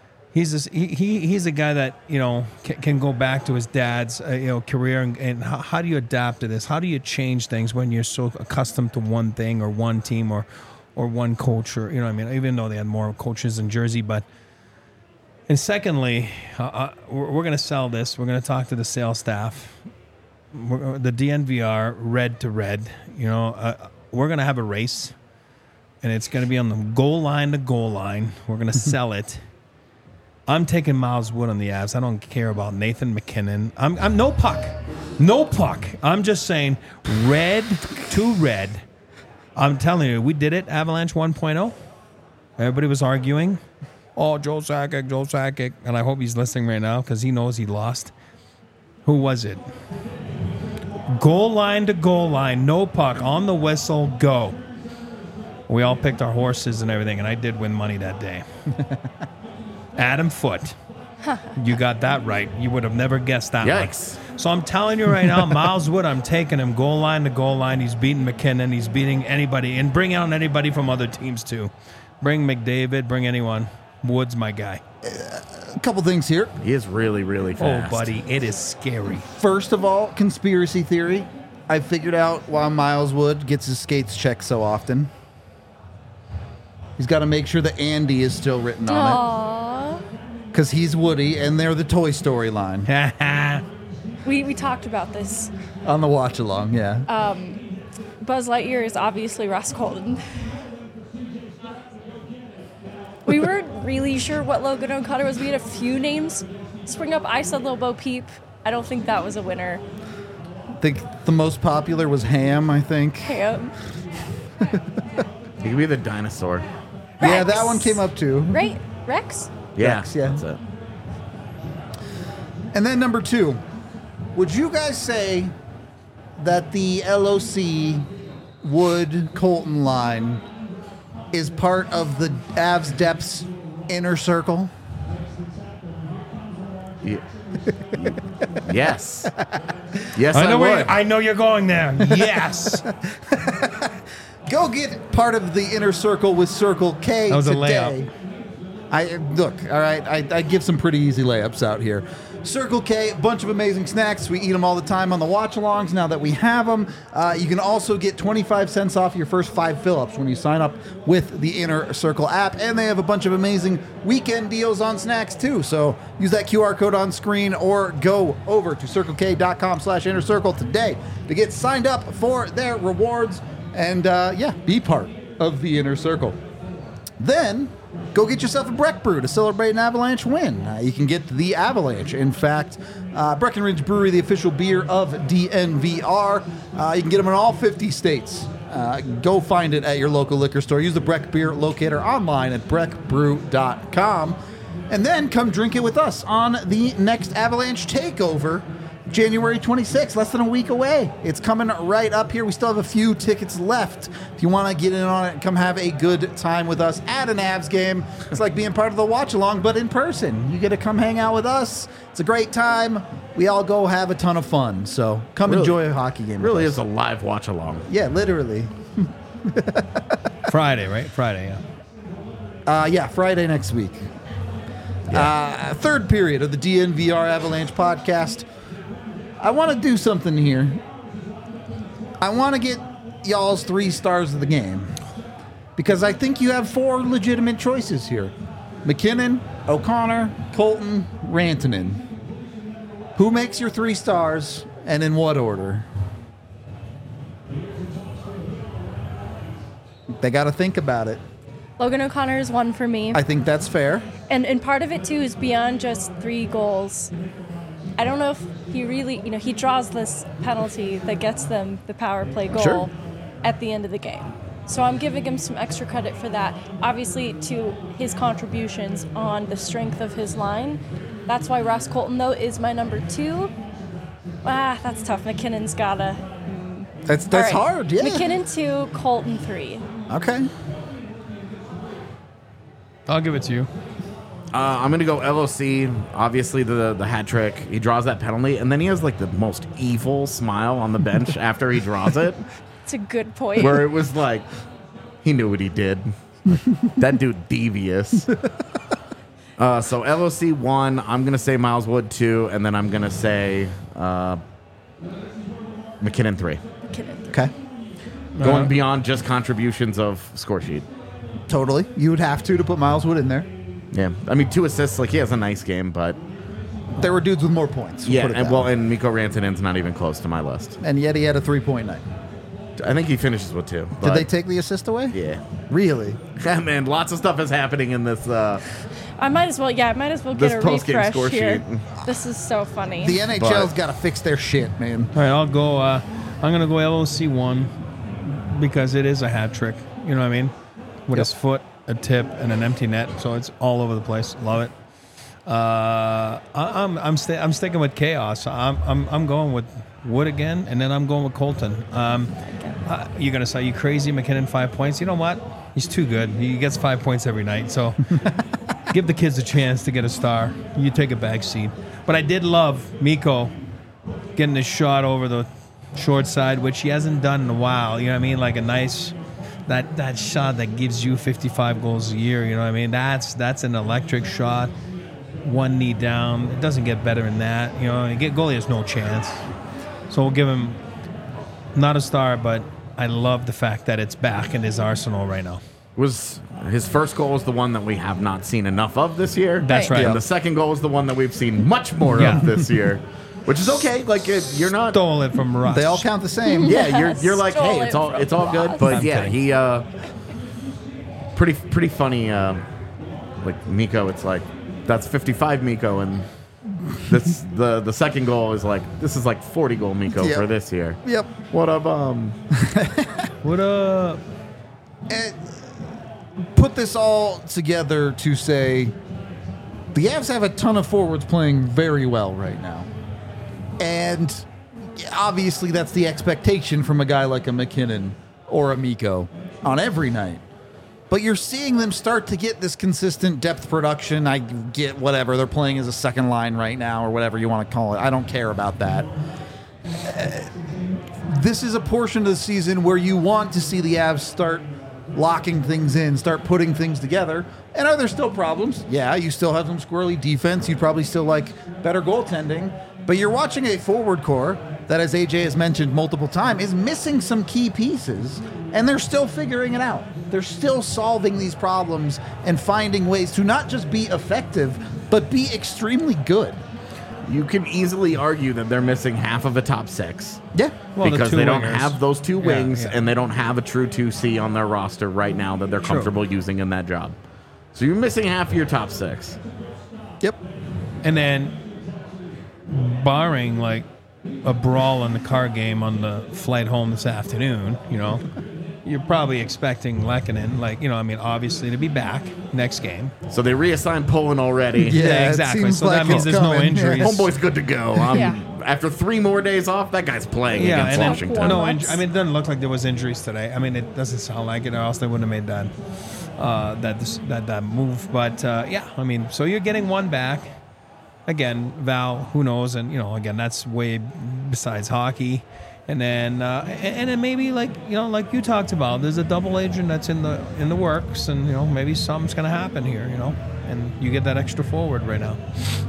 S2: He's a guy that can go back to his dad's career and how do you adapt to this? How do you change things when you're so accustomed to one thing or one team or one coach or even though they had more coaches in Jersey. And secondly, we're going to sell this. We're going to talk to the sales staff. The DNVR red to red. We're going to have a race, and it's going to be on the goal line to goal line. We're going to sell it. I'm taking Miles Wood on the Avs. I don't care about Nathan McKinnon. I'm no puck. I'm just saying red to red. I'm telling you, we did it. Avalanche 1.0. Everybody was arguing. Oh, Joe Sakic. And I hope he's listening right now because he knows he lost. Who was it? Goal line to goal line, no puck, on the whistle, go. We all picked our horses and everything, and I did win money that day. Adam Foote. You got that right. You would have never guessed that.
S3: Yikes.
S2: One. So I'm telling you right now, Miles Wood, I'm taking him goal line to goal line. He's beating McKinnon. He's beating anybody. And bring out anybody from other teams, too. Bring McDavid. Bring anyone. Wood's my guy.
S1: A couple things here.
S3: He is really, really fast.
S2: Oh, buddy, it is scary.
S1: First of all, conspiracy theory. I figured out why Miles Wood gets his skates checked so often. He's got to make sure the Andy is still written on it. Because he's Woody, and they're the Toy Story line
S4: We talked about this.
S1: on the watch along. Yeah.
S4: Buzz Lightyear is obviously Russ Colton. We weren't really sure what Logan O'Connor was. We had a few names spring up. I said Lil Bo Peep. I don't think that was a winner.
S1: I think the most popular was Ham. I think.
S4: Ham.
S3: He could be the dinosaur.
S1: Yeah,
S4: Rex.
S1: that one came up too.
S4: Right? Rex?
S3: Yeah,
S1: Rex, yeah.
S3: that's it.
S1: And then number 2, would you guys say that the LOC Wood Colton line is part of the Avs Depths inner circle?
S3: Yes. Yes, I would.
S2: I know you're going there. Yes.
S1: Go get part of the inner circle with Circle K
S2: That was a
S1: today. Look, all right, I give some pretty easy layups out here. Circle K, a bunch of amazing snacks. We eat them all the time on the watch-alongs now that we have them. You can also get 25 cents off your first 5 fill-ups when you sign up with the Inner Circle app. And they have a bunch of amazing weekend deals on snacks, too. So use that QR code on screen or go over to CircleK.com/Inner Circle today to get signed up for their rewards and, be part of the Inner Circle. Then go get yourself a Breck Brew to celebrate an Avalanche win. You can get the Avalanche. In fact, Breckenridge Brewery, the official beer of DNVR. You can get them in all 50 states. Go find it at your local liquor store. Use the Breck Beer Locator online at breckbrew.com. And then come drink it with us on the next Avalanche Takeover, January 26th, less than a week away. It's coming right up here. We still have a few tickets left. If you want to get in on it, come have a good time with us at an Avs game. It's like being part of the watch-along, but in person. You get to come hang out with us. It's a great time. We all go have a ton of fun. So come enjoy a hockey game
S3: Really
S1: with
S3: is a live watch along.
S1: Yeah, literally.
S2: Friday, right? Friday, yeah.
S1: Friday next week. Third period of the DNVR Avalanche podcast. I want to do something here. I want to get y'all's 3 stars of the game because I think you have 4 legitimate choices here. MacKinnon, O'Connor, Colton, Rantanen. Who makes your 3 stars and in what order? They got to think about it.
S4: Logan O'Connor is one for me.
S1: I think that's fair.
S4: And part of it, too, is beyond just 3 goals. I don't know if he really, he draws this penalty that gets them the power play goal
S1: Sure.
S4: at the end of the game. So I'm giving him some extra credit for that. Obviously, to his contributions on the strength of his line. That's why Ross Colton, though, is my number 2. That's tough. MacKinnon's gotta.
S1: That's
S4: All right.
S1: hard, yeah.
S4: MacKinnon 2, Colton 3.
S1: Okay.
S2: I'll give it to you.
S3: I'm going to go LOC. Obviously, the hat trick. He draws that penalty, and then he has like the most evil smile on the bench after he draws it,
S4: It's a good point.
S3: where it was like, he knew what he did. That dude devious. So LOC 1. I'm going to say Miles Wood 2, and then I'm going to say MacKinnon 3.
S4: MacKinnon.
S1: Okay.
S3: Going beyond just contributions of score sheet.
S1: Totally. You would have to put Miles Wood in there.
S3: Yeah, I mean 2 assists. Like he has a nice game, but
S1: There were dudes with more points.
S3: yeah,
S1: put it
S3: and
S1: that
S3: well,
S1: way.
S3: and Mikko Rantanen's not even close to my list.
S1: And yet he had a 3-point night.
S3: I think he finishes with 2.
S1: Did
S3: but-
S1: they take the assist away?
S3: Yeah.
S1: Really?
S3: Yeah, man, lots of stuff is happening in this.
S4: I might as well get
S3: This
S4: a
S3: post-game
S4: refresh
S3: score
S4: here.
S3: sheet.
S4: This is so funny.
S1: The NHL's got to fix their shit, man.
S2: All right, I'll go. I'm going to go LOC 1 because it is a hat trick. You know what I mean? With his foot, a tip, and an empty net. So it's all over the place. Love it. I'm sticking with chaos. I'm going with Wood again, and then I'm going with Colton. You're gonna say you crazy, MacKinnon 5 points. You know what? He's too good. He gets 5 points every night. So give the kids a chance to get a star. You take a back seat. But I did love Mikko getting a shot over the short side, which he hasn't done in a while. You know what I mean? Like a nice that shot that gives you 55 goals a year. You know what I mean? That's an electric shot. One knee down. It doesn't get better than that. You know, goalie has no chance. So we'll give him not a star, but I love the fact that it's back in his arsenal right now.
S3: was his first goal was the one that we have not seen enough of this year.
S2: That's right.
S3: And the second goal was the one that we've seen much more of this year, which is okay. Like you're not
S2: Stole it from Russ.
S1: They all count the same.
S3: Yeah, you're like,
S4: Stole
S3: hey,
S4: it
S3: it's all
S4: from
S3: good.
S4: Ross.
S3: But
S2: I'm
S3: yeah,
S2: kidding.
S3: he pretty funny. Like Miko, it's like that's 55 Miko, and this the second goal is like this is like 40 goal Miko
S1: Yep.
S3: for this year.
S1: Yep.
S3: What up?
S2: What up?
S1: And put this all together to say the Avs have a ton of forwards playing very well right now. And obviously that's the expectation from a guy like a McKinnon or a Miko on every night. But you're seeing them start to get this consistent depth production. I get whatever. They're playing as a second line right now or whatever you want to call it. I don't care about that. This is a portion of the season where you want to see the Avs start locking things in, start putting things together. And are there still problems? Yeah, you still have some squirrely defense. You'd probably still like better goaltending. But you're watching a forward core that, as AJ has mentioned multiple times, is missing some key pieces, and they're still figuring it out. They're still solving these problems and finding ways to not just be effective, but be extremely good.
S3: You can easily argue that they're missing half of a top six.
S1: Yeah.
S2: Well, the
S3: because
S2: two
S3: they don't
S2: wingers.
S3: have those two wings,
S2: yeah.
S3: and they don't have a true 2C on their roster right now that they're
S2: True.
S3: comfortable using in that job. So you're missing half of your top six.
S1: Yep.
S2: And then, barring like a brawl in the car game on the flight home this afternoon, you're probably expecting Lehkonen, obviously to be back next game.
S3: So they reassigned Poland already.
S1: Yeah, it
S2: exactly.
S1: seems
S2: So
S1: like
S2: that means
S1: it's
S2: there's no
S1: coming.
S2: injuries.
S3: Homeboy's good to go.
S4: Yeah.
S3: After 3 more days off, that guy's playing
S2: Yeah,
S3: against
S2: and then
S3: Washington.
S2: no
S4: Warm-ups.
S2: injury. It doesn't look like there was injuries today. It doesn't sound like it, or else they wouldn't have made that move. But so you're getting one back. Again, Val, who knows? And again, that's way besides hockey. And then maybe like you talked about, there's a double agent that's in the works, and maybe something's gonna happen here, and you get that extra forward right now.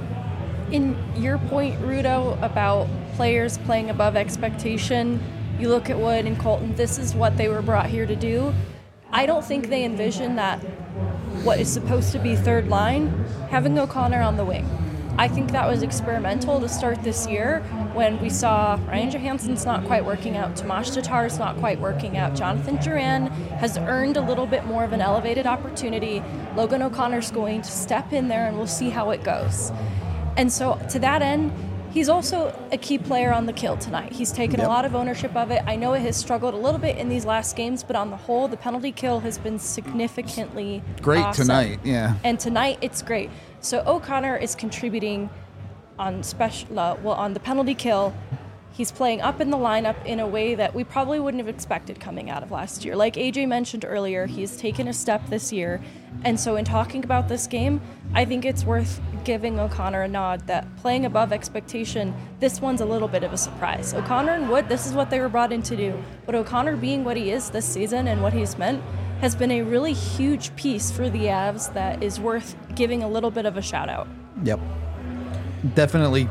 S4: In your point, Rudo, about players playing above expectation, you look at Wood and Colton, this is what they were brought here to do. I don't think they envision that what is supposed to be third line, having O'Connor on the wing. I think that was experimental to start this year when we saw Ryan Johansson's not quite working out, Tomas Tatar's not quite working out, Jonathan Duran has earned a little bit more of an elevated opportunity. Logan O'Connor's going to step in there and we'll see how it goes. And so to that end, he's also a key player on the kill tonight. He's taken a lot of ownership of it. I know it has struggled a little bit in these last games, but on the whole, the penalty kill has been significantly
S1: Great
S4: awesome.
S1: tonight, yeah.
S4: And tonight, it's great. So O'Connor is contributing on on the penalty kill. He's playing up in the lineup in a way that we probably wouldn't have expected coming out of last year. Like AJ mentioned earlier, he's taken a step this year. And so in talking about this game, I think it's worth giving O'Connor a nod that playing above expectation, this one's a little bit of a surprise. O'Connor and Wood, this is what they were brought in to do. But O'Connor being what he is this season and what he's meant has been a really huge piece for the Avs that is worth giving a little bit of a shout out.
S1: Yep. Definitely.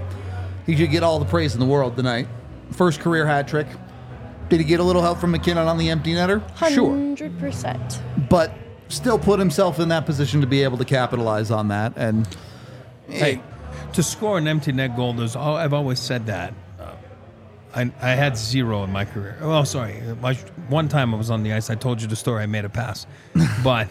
S1: He should get all the praise in the world tonight. First career hat trick. Did he get a little help from McKinnon on the empty netter? Sure.
S4: 100%.
S1: But still put himself in that position to be able to capitalize on that. And
S2: Hey, to score an empty net goal, I've always said that. I had 0 in my career. Oh, sorry. One time I was on the ice. I told you the story. I made a pass. But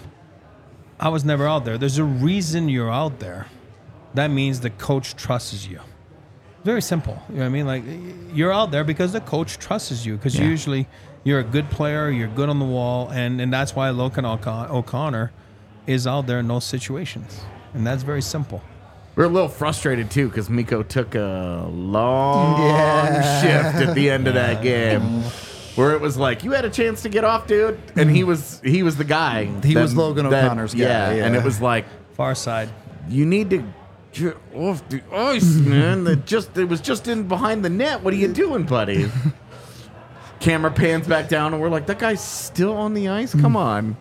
S2: I was never out there. There's a reason you're out there. That means the coach trusts you. Very simple. You know what I mean? Like, you're out there because the coach trusts you. Because usually you're a good player, you're good on the wall, and that's why Logan O'Connor is out there in those situations. And that's very simple.
S3: We're a little frustrated, too, because Miko took a long shift at the end of that game. Where it was like, you had a chance to get off, dude. And he was the guy.
S1: He was Logan O'Connor's guy.
S3: Yeah, and it was like,
S2: Far side.
S3: you need to get off the ice, man. It was just in behind the net. What are you doing, buddy? Camera pans back down, and we're like, that guy's still on the ice? Come on.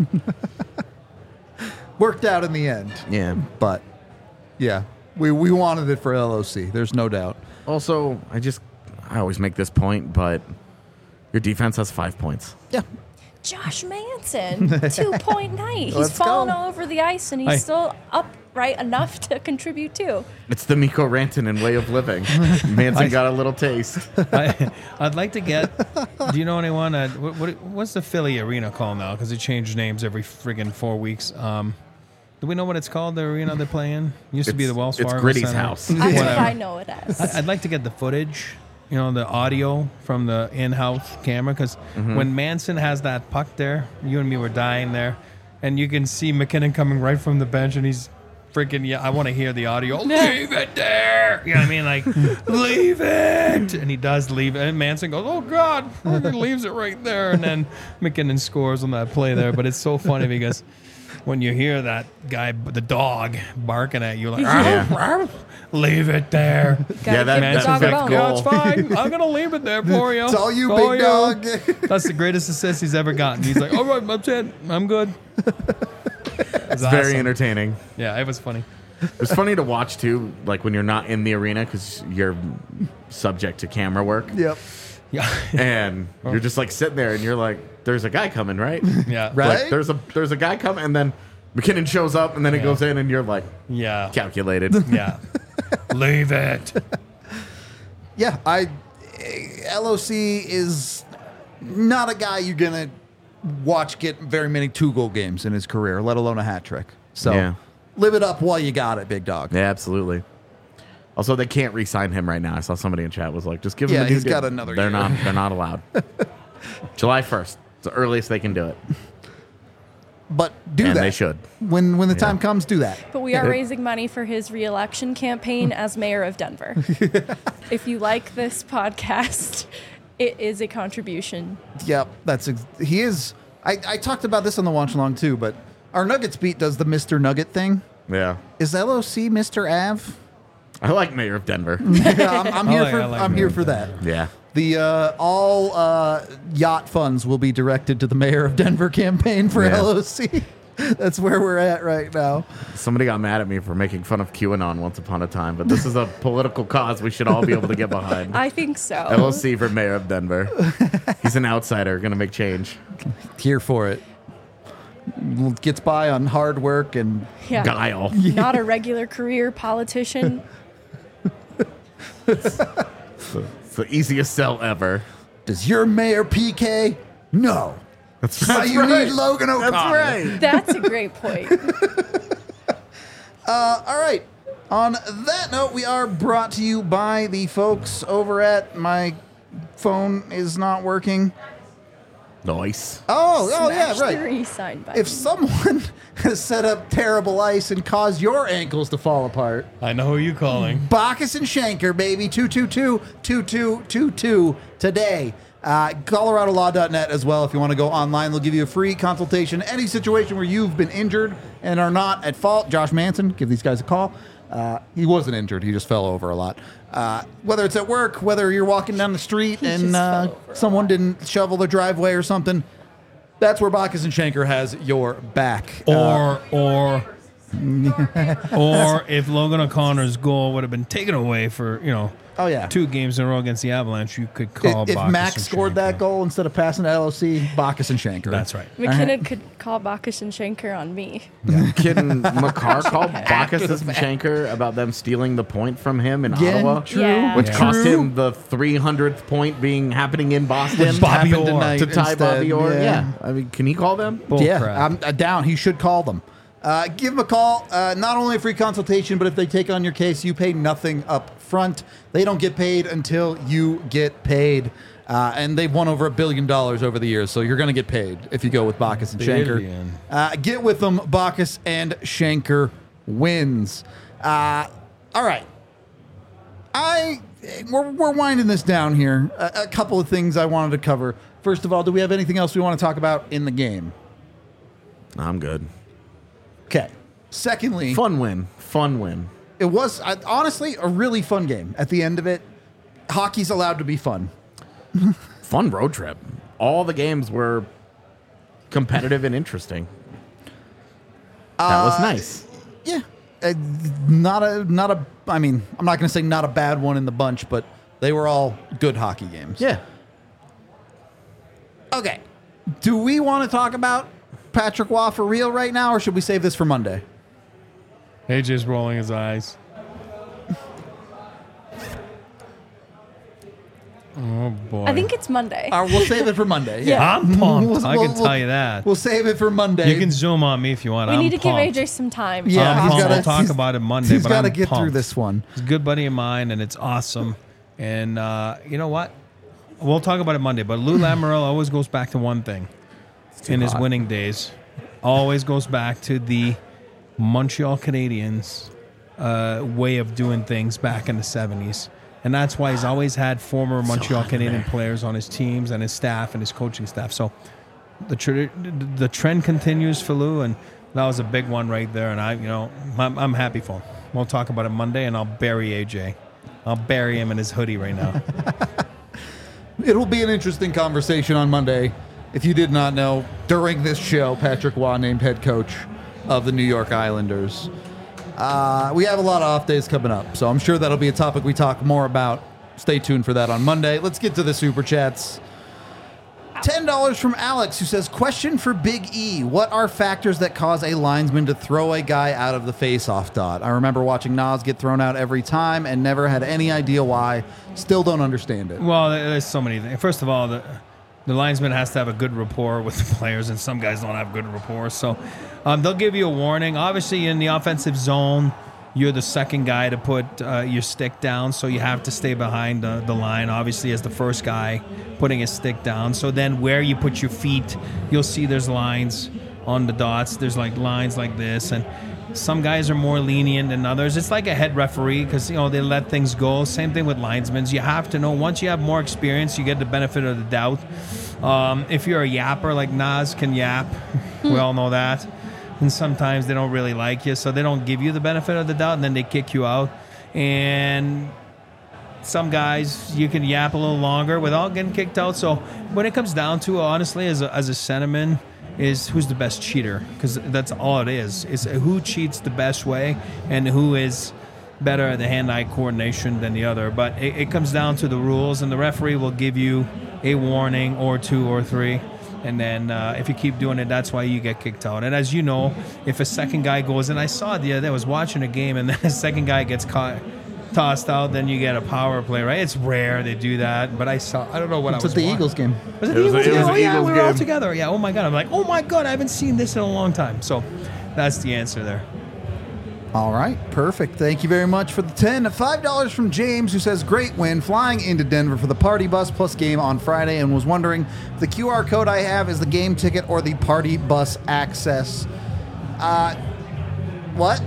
S1: worked out in the end.
S3: Yeah.
S1: But, yeah, we wanted it for LOC. There's no doubt.
S3: Also, I always make this point, but your defense has 5 points.
S1: Yeah.
S4: Josh Manson, 2-point night. He's
S1: Let's
S4: falling
S1: go.
S4: all over the ice, and he's still upright enough to contribute too.
S3: It's the Mikko Rantanen way of living. Manson got a little taste.
S2: I'd like to get. Do you know anyone? What's the Philly arena called now? Because it changed names every friggin' 4 weeks. Do we know what it's called? The arena they play in used to be the Wells Fargo.
S3: It's Gritty's
S2: Center.
S3: house.
S4: That's what
S2: Whatever.
S4: I know it as.
S2: I'd like to get the footage, the audio from the in-house camera, because when Manson has that puck there, you and me were dying there, and you can see McKinnon coming right from the bench, and he's freaking, I want to hear the audio. Leave it there. You know what I mean? Like, leave it. And he does leave it. And Manson goes, oh, God. He leaves it right there. And then McKinnon scores on that play there. But it's so funny because when you hear that guy, the dog, barking at you, like, leave it there.
S3: Yeah, that
S2: Manson's
S4: dog
S2: like,
S4: alone.
S2: yeah, it's fine. I'm going to leave it there for you.
S1: It's all you,
S2: For
S1: big
S2: you."
S1: dog.
S2: That's the greatest assist he's ever gotten. He's like, all right, that's it. I'm good. It's
S3: Very
S2: awesome.
S3: entertaining.
S2: Yeah, it was funny.
S3: It's funny to watch too, like when you're not in the arena because you're subject to camera work,
S1: Yep.
S2: Yeah.
S3: and you're just like sitting there, and you're like, "There's a guy coming, right?
S2: Yeah.
S1: Right.
S3: Like, there's a guy coming, and then McKinnon shows up, and then it
S2: Yeah.
S3: goes in, and you're like,
S2: Yeah.
S3: calculated.
S2: Yeah. Leave it.
S1: Yeah, LOC is not a guy you're gonna watch get very many 2-goal games in his career, let alone a hat trick. So
S3: Yeah.
S1: live it up while you got it, big dog.
S3: Yeah, absolutely. Also, they can't re-sign him right now. I saw somebody in chat was like, "Just give him
S1: Yeah,
S3: a new
S1: he's
S3: deal."
S1: got another
S3: They're
S1: year.
S3: They're not allowed. July 1st, it's the earliest they can do it,
S1: But do
S3: and
S1: that.
S3: they should.
S1: When the time comes, do that.
S4: But we are raising money for his reelection campaign as mayor of Denver. If you like this podcast, it is a contribution.
S1: Yep, he is. I talked about this on the watch along too, but our Nuggets beat does the Mr. Nugget thing.
S3: Yeah,
S1: Is LOC Mr. Av?
S3: I like Mayor of Denver.
S1: Yeah, I'm here
S2: I
S1: for
S2: like
S1: I'm
S2: Mayor
S1: here
S2: of
S1: for that.
S3: Yeah.
S1: The all yacht funds will be directed to the Mayor of Denver campaign for
S3: Yeah.
S1: LOC. That's where we're at right now.
S3: Somebody got mad at me for making fun of QAnon once upon a time, but this is a political cause we should all be able to get behind.
S4: I think so.
S3: LOC for Mayor of Denver. He's an outsider, going to make change.
S1: Here for it. Gets by on hard work and
S4: Yeah.
S3: Guile.
S4: Not a regular career politician.
S3: It's the easiest sell ever.
S1: does your mayor PK? No.
S3: That's
S1: Why you need Logan O'Connor.
S3: That's right.
S4: That's a great point.
S1: All right. On that note, we are brought to you by the folks over at my phone is not working.
S3: Nice.
S1: Oh yeah,
S4: Smash the
S1: right.
S4: re-sign button.
S1: If someone has set up terrible ice and caused your ankles to fall apart,
S2: I know who you calling.
S1: Bacchus and Shanker, baby, 222-2222 today. ColoradoLaw.net as well. If you want to go online, they'll give you a free consultation. Any situation where you've been injured and are not at fault, Josh Manson, give these guys a call. He wasn't injured. He just fell over a lot. Whether it's at work, whether you're walking down the street and
S4: just fell over a
S1: someone didn't shovel their driveway or something, that's where Bacchus and Shanker has your back.
S2: Or if Logan O'Connor's goal would have been taken away for,
S1: Oh, yeah.
S2: 2 games in a row against the Avalanche, you could call
S1: If
S2: Bacchus
S1: Max
S2: and
S1: scored
S2: Shanker.
S1: that goal instead of passing to LOC, Bacchus and Shanker.
S2: That's right.
S4: McKinnon could call Bacchus and Shanker on me.
S3: Kidding. Makar called Bacchus and Shanker about them stealing the point from him in
S1: Again,
S3: Ottawa.
S1: true.
S4: Yeah.
S3: Which
S2: Yeah.
S3: cost
S1: True.
S3: him the 300th point happening in Boston.
S2: Bobby
S1: happened
S2: Orr.
S1: tonight
S3: to tie
S1: instead,
S3: Bobby Orr.
S1: yeah.
S3: Yeah. I mean, can he call them?
S2: Bull
S1: Yeah,
S2: crap.
S1: I'm down. He should call them. Give them a call. Not only a free consultation, but if they take on your case, you pay nothing up front. They don't get paid until you get paid. And they've won over $1 billion over the years, so you're going to get paid if you go with Bacchus and Shanker.
S2: Billion.
S1: Get with them. Bacchus and Shanker wins. All right. We're winding this down here. A couple of things I wanted to cover. First of all, do we have anything else we want to talk about in the game?
S3: I'm good.
S1: Okay. Secondly,
S3: Fun win.
S1: it was honestly a really fun game. At the end of it, hockey's allowed to be fun.
S3: Fun road trip. All the games were competitive and interesting. That was nice.
S1: Yeah. Not a. I mean, I'm not going to say not a bad one in the bunch, but they were all good hockey games.
S3: Yeah.
S1: Okay. Do we want to talk about Patrick Waugh for real right now, or should we save this for Monday?
S2: AJ's rolling his eyes. Oh, boy.
S4: I think it's Monday.
S1: We'll save it for Monday.
S4: Yeah.
S2: I'm pumped. I can tell you that.
S1: We'll save it for Monday.
S2: You can zoom on me if you want.
S4: We
S2: I'm
S4: need to
S2: pumped.
S4: give AJ some time.
S1: Yeah,
S2: I'm
S1: he's
S2: pumped.
S1: gotta-
S2: We'll talk
S1: he's-
S2: about it Monday.
S1: He's
S2: but
S1: got to
S2: I'm
S1: get through
S2: pumped.
S1: this one.
S2: He's a good buddy of mine, and it's awesome. And you know what? We'll talk about it Monday. But Lou Lamoriello always goes back to one thing in his winning days. Always goes back to the Montreal Canadiens way of doing things back in the 70s. And that's why he's always had former Montreal Canadian players on his teams and his staff and his coaching staff. So the trend continues for Lou, and that was a big one right there. And I'm happy for him. We'll talk about it Monday, and I'll bury AJ. I'll bury him in his hoodie right now.
S1: It'll be an interesting conversation on Monday. If you did not know, during this show, Patrick Waugh named head coach of the New York Islanders. We have a lot of off days coming up, so I'm sure that'll be a topic we talk more about. Stay tuned for that on Monday. Let's get to the Super Chats. $10 from Alex, who says, question for Big E. What are factors that cause a linesman to throw a guy out of the face-off dot? I remember watching Nas get thrown out every time and never had any idea why. Still don't understand it.
S2: Well, there's so many things. First of all, the linesman has to have a good rapport with the players, and some guys don't have good rapport. So they'll give you a warning. Obviously, in the offensive zone, you're the second guy to put your stick down, so you have to stay behind the line, obviously, as the first guy putting his stick down. So then where you put your feet, you'll see there's lines on the dots. There's like lines like this, and some guys are more lenient than others. It's like a head referee because, they let things go. Same thing with linesmen. You have to know, once you have more experience, you get the benefit of the doubt. If you're a yapper, like Nas can yap, we all know that. And sometimes they don't really like you, so they don't give you the benefit of the doubt, and then they kick you out. And some guys, you can yap a little longer without getting kicked out. So when it comes down to, honestly, as a centerman, is who's the best cheater, because that's all it is who cheats the best way and who is better at the hand-eye coordination than the other. But it comes down to the rules, and the referee will give you a warning or two or three. And then if you keep doing it, that's why you get kicked out. And as you know, if a second guy goes, and I saw it the other day, I was watching a game, and then a second guy gets tossed out, then you get a power play, right? It's rare they do that, but I don't know what I was
S1: It's at the
S2: watching.
S1: Eagles game.
S2: Was it
S3: It
S2: the
S3: was
S2: Eagles
S3: a- it
S2: game?
S3: was
S2: Oh,
S3: an
S2: yeah,
S3: Eagles
S2: we were all
S3: game.
S2: together. Yeah, oh my God. I'm like, oh my God, I haven't seen this in a long time. So that's the answer there.
S1: All right, perfect. Thank you very much for the 10. $5 from James, who says, great win, flying into Denver for the Party Bus Plus game on Friday, and was wondering if the QR code I have is the game ticket or the Party Bus access. What?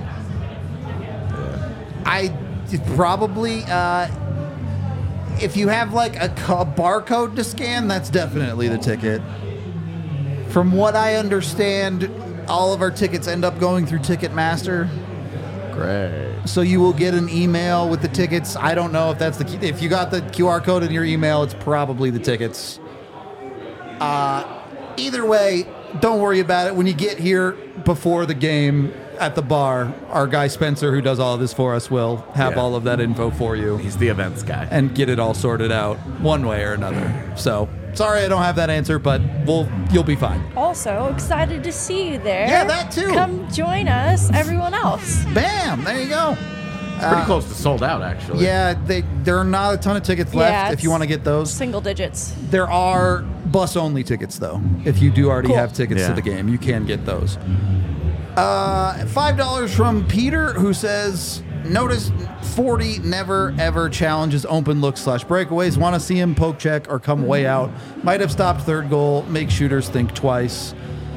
S1: I probably, if you have like a barcode to scan, that's definitely the ticket. From what I understand, all of our tickets end up going through Ticketmaster.
S3: Great.
S1: So you will get an email with the tickets. I don't know if that's the key. If you got the QR code in your email, it's probably the tickets. Either way, don't worry about it. When you get here before the game at the bar, our guy Spencer, who does all of this for us, will have all of that info for you
S3: He's the events guy.
S1: and get it all sorted out one way or another. So sorry I don't have that answer, but you'll be fine.
S4: Also, excited to see you there.
S1: Yeah, that too.
S4: Come join us, everyone else.
S1: Bam! There you go.
S3: Pretty close to sold out, actually.
S1: Yeah, there are not a ton of tickets left
S4: Yeah,
S1: if you want to get those.
S4: Single digits.
S1: There are bus-only tickets, though. If you do already
S4: Cool.
S1: have tickets to
S3: Yeah.
S1: the game, you can get those. $5 from Peter, who says, notice 40 never, ever challenges open looks / breakaways. Want to see him poke check or come way out. Might have stopped third goal. Make shooters think twice.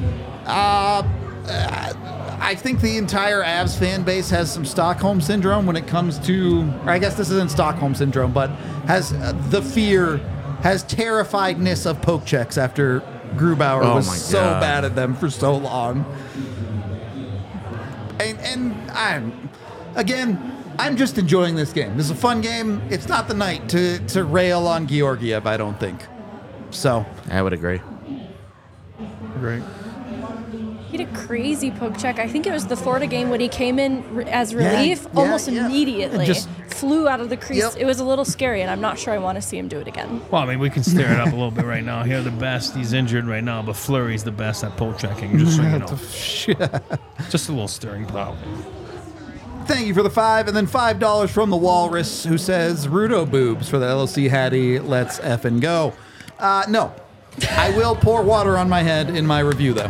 S1: I think the entire Avs fan base has some Stockholm syndrome when it comes to, or I guess this isn't Stockholm syndrome, but has the fear, has terrifiedness of poke checks after Grubauer
S3: Oh
S1: was
S3: my
S1: so
S3: God.
S1: bad at them for so long. And I'm just enjoying this game. This is a fun game. It's not the night to rail on Georgiev, I don't think. So,
S3: I would agree.
S1: great.
S4: He had a crazy poke check. I think it was the Florida game when he came in as relief almost immediately.
S1: And just
S4: flew out of the crease.
S1: Yep.
S4: It was a little scary, and I'm not sure I want to see him do it again.
S2: Well, I mean, we can stir it up a little bit right now. Here, the best. He's injured right now, but Fleury's the best at pull checking, just so you know. Just a little stirring plow.
S1: Thank you for the 5, and then $5 from the Walrus, who says, Rudo boobs for the LLC Hattie. Let's effing go. No. I will pour water on my head in my review, though.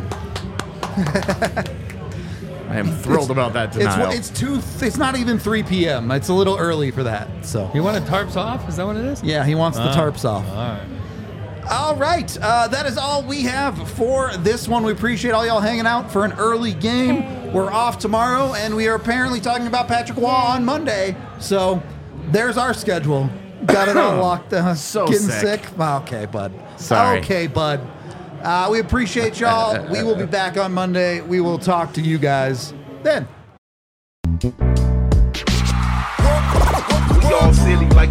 S3: I am thrilled about that denial.
S1: It's not even 3 p.m. It's a little early for that. So
S2: You want the tarps off? Is that what it is?
S1: yeah, he wants the tarps off.
S2: All right.
S1: All right, that is all we have for this one. We appreciate all y'all hanging out for an early game. We're off tomorrow, and we are apparently talking about Patrick Waugh on Monday. So there's our schedule. Got it all locked down.
S3: So
S1: Getting
S3: sick.
S1: Okay, bud.
S3: Sorry.
S1: Okay, bud. We appreciate y'all. We will be back on Monday. We will talk to you guys then.
S5: We all silly like